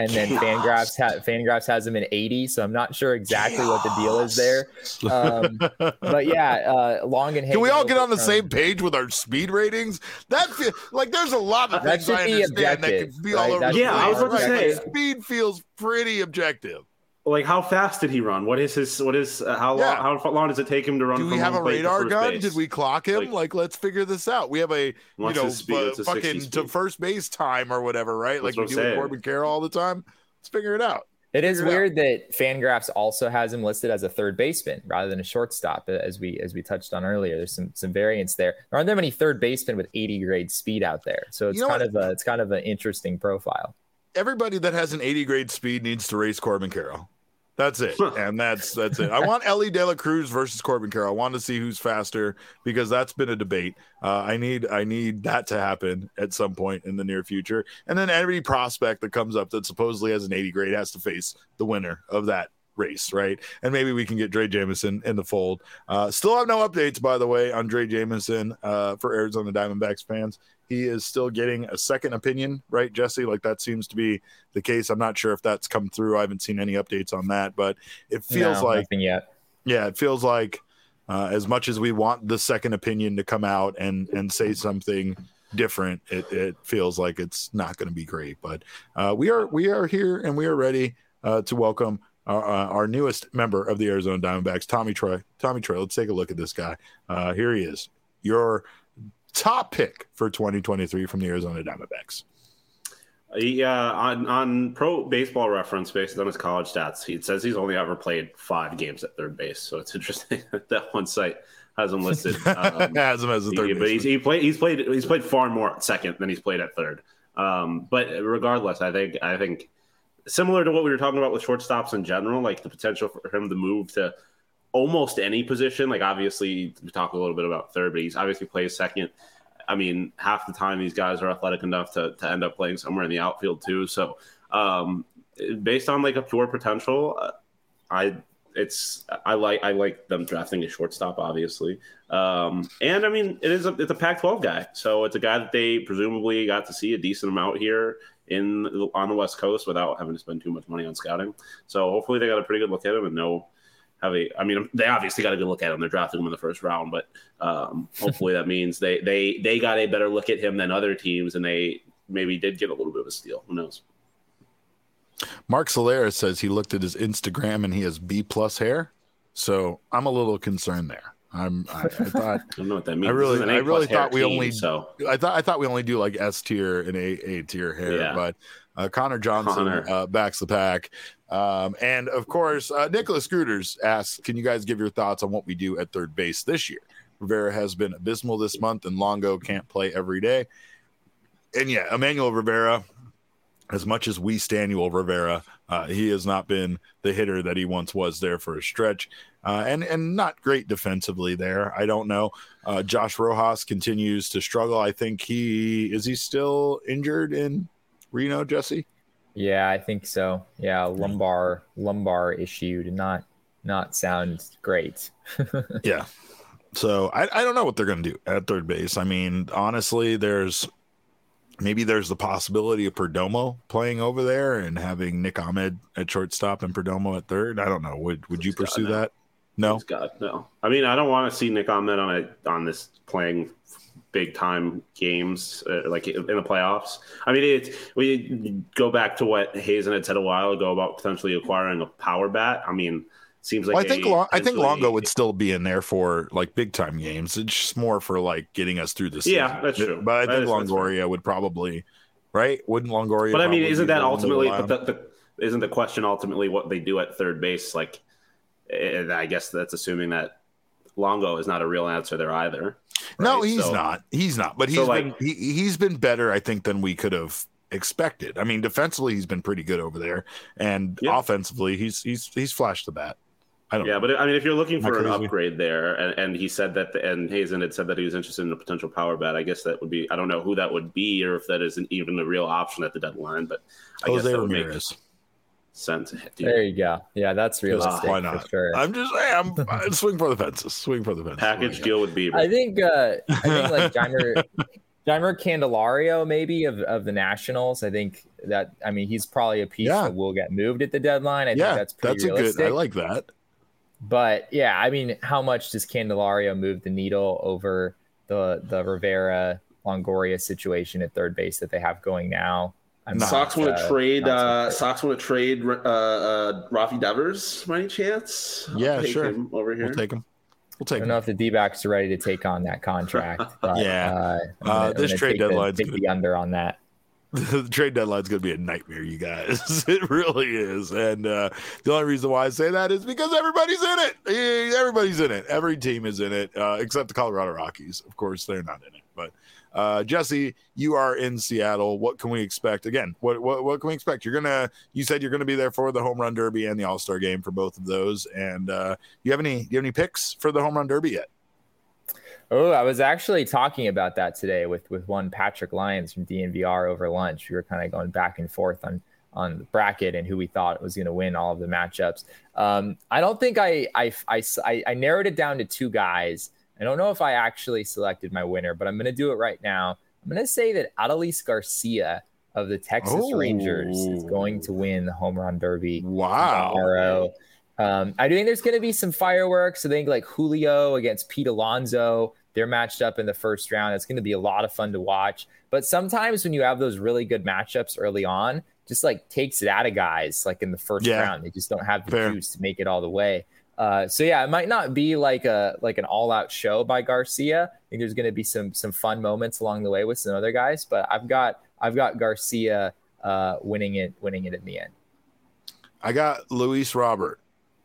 and then Fangraphs ha- Fangraphs has him in eighty, so I'm not sure exactly what the deal is there. Um, but yeah, uh, Long and Hagen. Can we all get on the from, same page with our speed ratings? That feel, like there's a lot of things I understand that could be right? all over. That's yeah, I was about to say like, speed feels pretty objective. Like, how fast did he run? What is his? What is uh, how yeah. long? How long does it take him to run? Do we from have a radar gun? Base? Did we clock him? Like, like, let's figure this out. We have a you know speed, uh, fucking to first base time or whatever, right? That's like we do with Corbin Carroll all the time. Let's figure it out. It is figure weird it that Fangraphs also has him listed as a third baseman rather than a shortstop, as we as we touched on earlier. There's some some variance there. There aren't that many third basemen with eighty grade speed out there, so it's you know kind what? of a it's kind of an interesting profile. Everybody that has an eighty grade speed needs to race Corbin Carroll. That's it. And that's that's it. I want Ellie De La Cruz versus Corbin Carroll. I want to see who's faster because that's been a debate. Uh, I need I need that to happen at some point in the near future. And then every prospect that comes up that supposedly has an eighty grade has to face the winner of that race, right? And maybe we can get Dre Jamison in the fold. Uh, still have no updates, by the way, on Dre Jamison uh, for Arizona Diamondbacks fans. He is still getting a second opinion, right, Jesse? Like that seems to be the case. I'm not sure if that's come through. I haven't seen any updates on that, but it feels no, like nothing yet. Yeah, it feels like uh, as much as we want the second opinion to come out and and say something different, it, it feels like it's not going to be great. But uh, we are we are here and we are ready uh, to welcome our, uh, our newest member of the Arizona Diamondbacks, Tommy Troy. Tommy Troy, let's take a look at this guy. Uh, here he is. Your top pick for twenty twenty-three from the Arizona Diamondbacks. Yeah, on, on Pro Baseball Reference, based on his college stats, he says he's only ever played five games at third base. So it's interesting that that one site has him listed. Um, has him as a third he, base. But he's, he played. He's played. He's played far more at second than he's played at third. Um, but regardless, I think I think similar to what we were talking about with shortstops in general, like the potential for him to move to almost any position. Like obviously, we talk a little bit about third, but he's obviously plays second. I mean, half the time these guys are athletic enough to, to end up playing somewhere in the outfield too. So, um, based on like a pure potential, uh, I it's I like I like them drafting a shortstop, obviously. Um, and I mean, it is a it's a Pac twelve guy, so it's a guy that they presumably got to see a decent amount here in on the West Coast without having to spend too much money on scouting. So hopefully they got a pretty good look at him and know. Have a, I mean, they obviously got a good look at him. They're drafting him in the first round, but um, hopefully that means they, they they got a better look at him than other teams, and they maybe did get a little bit of a steal. Who knows? Mark Solera says he looked at his Instagram and he has B plus hair, so I'm a little concerned there. I'm. I, I thought. I don't know what that means. I really, I really thought we team, only. So I thought I thought we only do like S tier and A A tier hair, yeah. but uh, Connor Johnson Connor. Uh, backs the pack. Um, and of course, uh, Nicholas Scooters asks, can you guys give your thoughts on what we do at third base this year? Rivera has been abysmal this month and Longo can't play every day. And yeah, Emmanuel Rivera, as much as we stand Emmanuel Rivera, uh, he has not been the hitter that he once was there for a stretch. Uh, and, and not great defensively there. I don't know. Uh, Josh Rojas continues to struggle. I think he, is he still injured in Reno, Jesse? Yeah, I think so. Yeah, lumbar lumbar issue did not not sound great. Yeah. So I, I don't know what they're going to do at third base. I mean, honestly, there's maybe there's the possibility of Perdomo playing over there and having Nick Ahmed at shortstop and Perdomo at third. I don't know. Would would you pursue God, no. that? No. God, no. I mean, I don't want to see Nick Ahmed on a on this playing big time games uh, like in the playoffs. I mean, it, we go back to what Hazen had said a while ago about potentially acquiring a power bat. I mean, it seems like well, I think Long, I think Longo would still be in there for like big time games. It's just more for like getting us through the season. Yeah, that's true. But I that think is, Longoria would probably, right? Wouldn't Longoria? But I mean, isn't that ultimately? But the, the, isn't the question ultimately what they do at third base? Like, I guess that's assuming that Longo is not a real answer there either. Right? No, he's so, not. He's not. But he's so been like, he, he's been better, I think, than we could have expected. I mean, defensively, he's been pretty good over there, and yeah. offensively, he's he's he's flashed the bat. I don't. Yeah, know. but I mean, if you're looking for Not an crazy. upgrade there, and, and he said that, the, and Hazen had said that he was interested in a potential power bat. I guess that would be. I don't know who that would be, or if that isn't even a real option at the deadline. But I Jose guess that would Ramirez. make sense. Dude. There you go. Yeah, that's realistic. Why not? For sure. I'm just hey, I'm, I'm swing for the fences. Swing for the fences. Package deal with Bieber. I think. Uh, I think like Jeimer, Jeimer Candelario, maybe of, of the Nationals. I think that I mean he's probably a piece yeah. that will get moved at the deadline. I yeah, think that's pretty that's realistic. a good. I like that. But yeah, I mean, how much does Candelario move the needle over the the Rivera Longoria situation at third base that they have going now? I'm Sox want to uh, trade. Uh, Sox want to trade uh, uh, Rafi Devers by any chance? Yeah, I'll take sure. Him over here. We'll take him. We'll take I don't him. know if the D-backs are ready to take on that contract. But, yeah, uh, gonna, uh, this trade deadline take the under on that. The trade deadline is going to be a nightmare, you guys. It really is. And uh, the only reason why I say that is because everybody's in it. Everybody's in it. Every team is in it, uh, except the Colorado Rockies. Of course, they're not in it. But uh, Jesse, you are in Seattle. What can we expect? Again, what what, what can we expect? You're gonna. You said you're going to be there for the Home Run Derby and the All-Star Game for both of those. And uh, you have any? Do you have any picks for the Home Run Derby yet? Oh, I was actually talking about that today with, with one Patrick Lyons from D N V R over lunch. We were kind of going back and forth on, on the bracket and who we thought was going to win all of the matchups. Um, I don't think I, I, I, I narrowed it down to two guys. I don't know if I actually selected my winner, but I'm going to do it right now. I'm going to say that Adolis Garcia of the Texas oh. Rangers is going to win the Home Run Derby wow. tomorrow. Um, I do think there's going to be some fireworks. I think like Julio against Pete Alonso. They're matched up in the first round. It's going to be a lot of fun to watch. But sometimes when you have those really good matchups early on, just like takes it out of guys like in the first yeah. round. They just don't have the Fair. juice to make it all the way. Uh, so yeah, it might not be like a like an all-out show by Garcia. I think there's going to be some some fun moments along the way with some other guys. But I've got I've got Garcia uh, winning it winning it in the end. I got Luis Robert.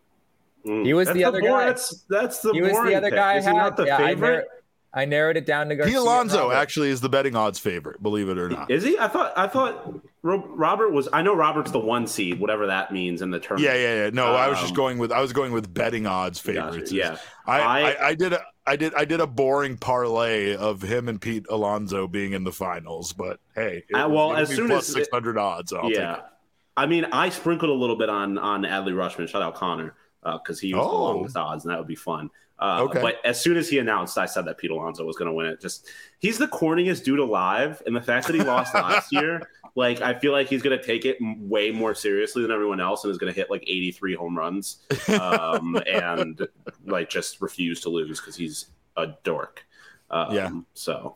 He was that's the other the guy. That's that's the he was the other pick. guy. Is he not the yeah, favorite? I, narrowed, I narrowed it down to Garcia. Pete Alonso actually is the betting odds favorite. Believe it or not. Is he? I thought I thought Robert was. I know Robert's the one seed, whatever that means in the tournament. Yeah, yeah, yeah. No, um, I was just going with I was going with betting odds favorites. Gotcha, yeah, I, I, I I did a I did I did a boring parlay of him and Pete Alonso being in the finals, but hey, it uh, was, well, it as soon plus as six hundred odds, I'll yeah. take it. I mean, I sprinkled a little bit on on Adley Rutschman. Shout out Connor. Because uh, he was oh. the longest odds, and that would be fun. Uh, okay. But as soon as he announced, I said that Pete Alonso was going to win it. Just he's the corniest dude alive, and the fact that he lost last year, like I feel like he's going to take it way more seriously than everyone else, and is going to hit like eighty-three home runs, um, and like just refuse to lose because he's a dork. Um, yeah. So.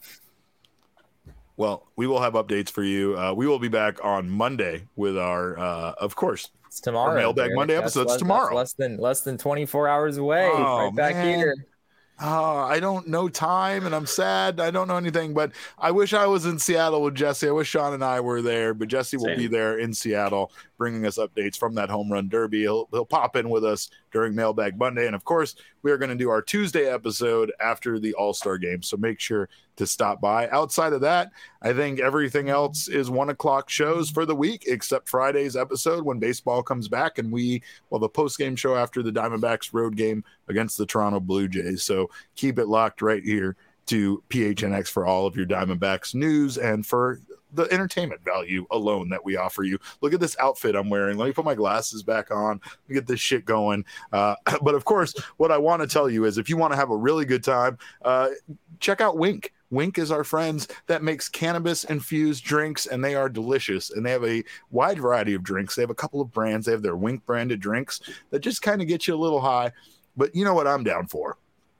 Well, we will have updates for you. Uh, we will be back on Monday with our, uh, of course. It's tomorrow. Our Mailbag Eric. Monday episode's less, tomorrow. Less than less than twenty-four hours away. Oh, right back man. here. Oh, I don't know time, and I'm sad. I don't know anything, but I wish I was in Seattle with Jesse. I wish Sean and I were there, but Jesse will Same. be there in Seattle, bringing us updates from that Home Run Derby. He'll he'll pop in with us during Mailbag Monday, and of course, we are going to do our Tuesday episode after the All-Star Game. So make sure to stop by. Outside of that, I think everything else is one o'clock shows for the week, except Friday's episode when baseball comes back, and we well the post game show after the Diamondbacks road game against the Toronto Blue Jays. So keep it locked right here to P H N X for all of your Diamondbacks news and for the entertainment value alone that we offer you. Look at this outfit I'm wearing. Let me put my glasses back on. Let me get this shit going. Uh, but of course, what I want to tell you is if you want to have a really good time, uh, check out Wink. Wink is our friends that makes cannabis infused drinks, and they are delicious. And they have a wide variety of drinks. They have a couple of brands. They have their Wink branded drinks that just kind of get you a little high. But you know what I'm down for?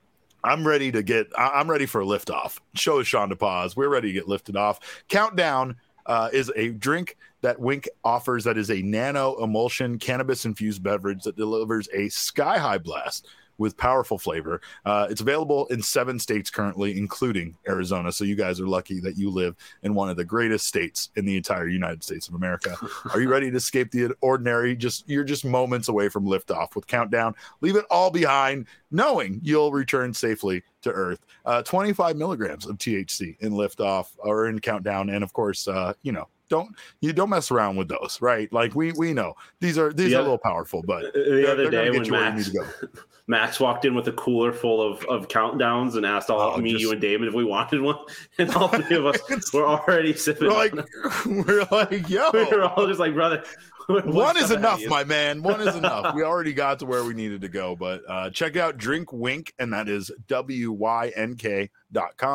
I'm ready to get, I'm ready for a liftoff. Show is Sean DePaz. We're ready to get lifted off. Countdown uh, is a drink that Wink offers that is a nano emulsion cannabis infused beverage that delivers a sky high blast with powerful flavor. Uh, it's available in seven states currently, including Arizona. So you guys are lucky that you live in one of the greatest states in the entire United States of America. Are you ready to escape the ordinary? Just you're just moments away from liftoff with Countdown. Leave it all behind, knowing you'll return safely to Earth. Uh, twenty-five milligrams of T H C in Liftoff or in Countdown, and of course, uh, you know. Don't you don't mess around with those, right? Like we we know these are these the are other, a little powerful, but the other day when Max, Max walked in with a cooler full of, of countdowns and asked all oh, me, just, you, and David if we wanted one, and all three of us were already sipping. We're like, we're like, yo, we're all just like, brother. One is enough, my man. One is enough. We already got to where we needed to go, but uh, check out Drink Wink, and that is W Y N K dot com.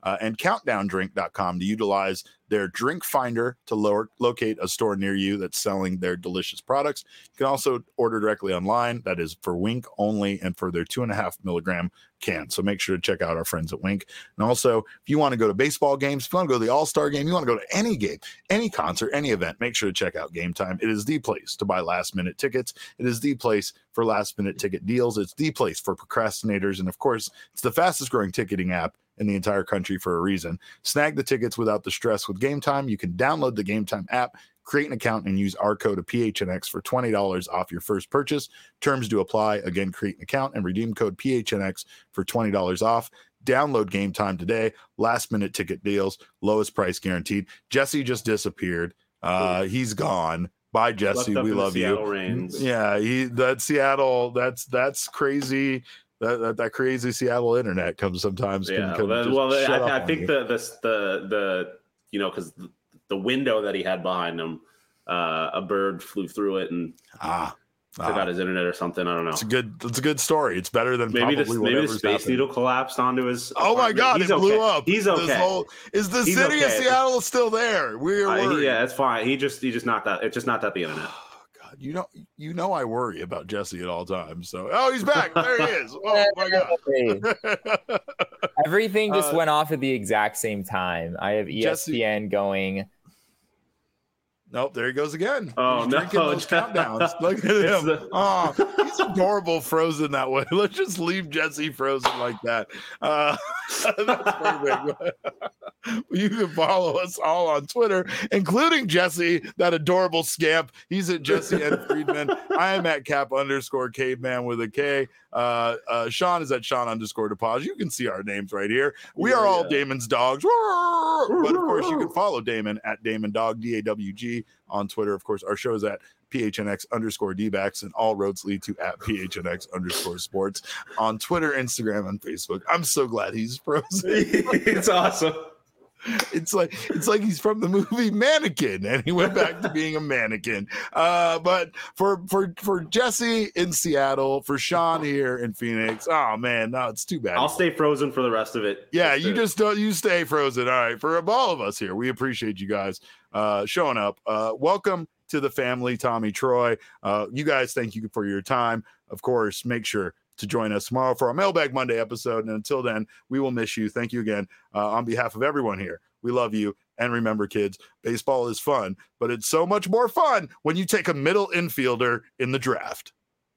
uh, and countdown drink dot com to utilize their drink finder to lower, locate a store near you that's selling their delicious products. You can also order directly online. That is for Wink only and for their two and a half milligram can. So make sure to check out our friends at Wink. And also, if you want to go to baseball games, if you want to go to the All-Star game, you want to go to any game, any concert, any event, make sure to check out Game Time. It is the place to buy last-minute tickets. It is the place for last-minute ticket deals. It's the place for procrastinators. And of course, it's the fastest-growing ticketing app in the entire country for a reason. Snag the tickets without the stress with Game Time. You can download the Game Time app, create an account, and use our code of P H N X for twenty dollars off your first purchase. Terms do apply. Again, create an account and redeem code P H N X for twenty dollars off. Download Game Time today. Last minute ticket deals, lowest price guaranteed. Jesse just disappeared. Uh, he's gone. Bye, Jesse. We love you. Rains. Yeah, he that Seattle. That's that's crazy. That, that that crazy Seattle internet comes sometimes. Yeah, can, well, well I, I think the, the the the you know because the, the window that he had behind him, uh, a bird flew through it and ah, took ah. out his internet or something. I don't know. It's a good. It's a good story. It's better than maybe probably the maybe the space happened. needle collapsed onto his. Oh apartment. my God! He's it blew okay. up. He's okay. This whole, is the He's city okay. of Seattle still there? We're uh, worried. he, yeah, it's fine. He just he just not that. It's just not that the internet. God, you know, you know, I worry about Jesse at all times. So, oh, he's back. There he is. Oh my God! Everything just uh, went off at the exact same time. I have E S P N Jesse, going. Nope, there he goes again. Oh, he's no. drinking those countdowns. Look at him. The... Oh, he's adorable frozen that way. Let's just leave Jesse frozen like that. Uh, that's perfect. You can follow us all on Twitter, including Jesse, that adorable scamp. He's at Jesse N. Friedman. I am at Cap underscore caveman with a K. Uh, uh, Sean is at Sean underscore deposit. You can see our names right here. We yeah, are all yeah. Damon's dogs. But of course, you can follow Damon at Damon Dog, D A W G, on Twitter. Of course, our show is at P H N X underscore D-backs, and all roads lead to at P H N X underscore sports on Twitter, Instagram, and Facebook. I'm so glad he's frozen. It's awesome. It's like it's like he's from the movie Mannequin, and he went back to being a mannequin. Uh, but for for for Jesse in Seattle, for Sean here in Phoenix, oh man, no, it's too bad. I'll stay frozen for the rest of it. Yeah, just you to... just don't. You stay frozen. All right, for all of us here, we appreciate you guys uh, showing up. Uh, welcome to the family, Tommy Troy. Uh, you guys, thank you for your time. Of course, make sure to join us tomorrow for our Mailbag Monday episode. And until then, we will miss you. Thank you again uh, on behalf of everyone here. We love you. And remember, kids, baseball is fun, but it's so much more fun when you take a middle infielder in the draft.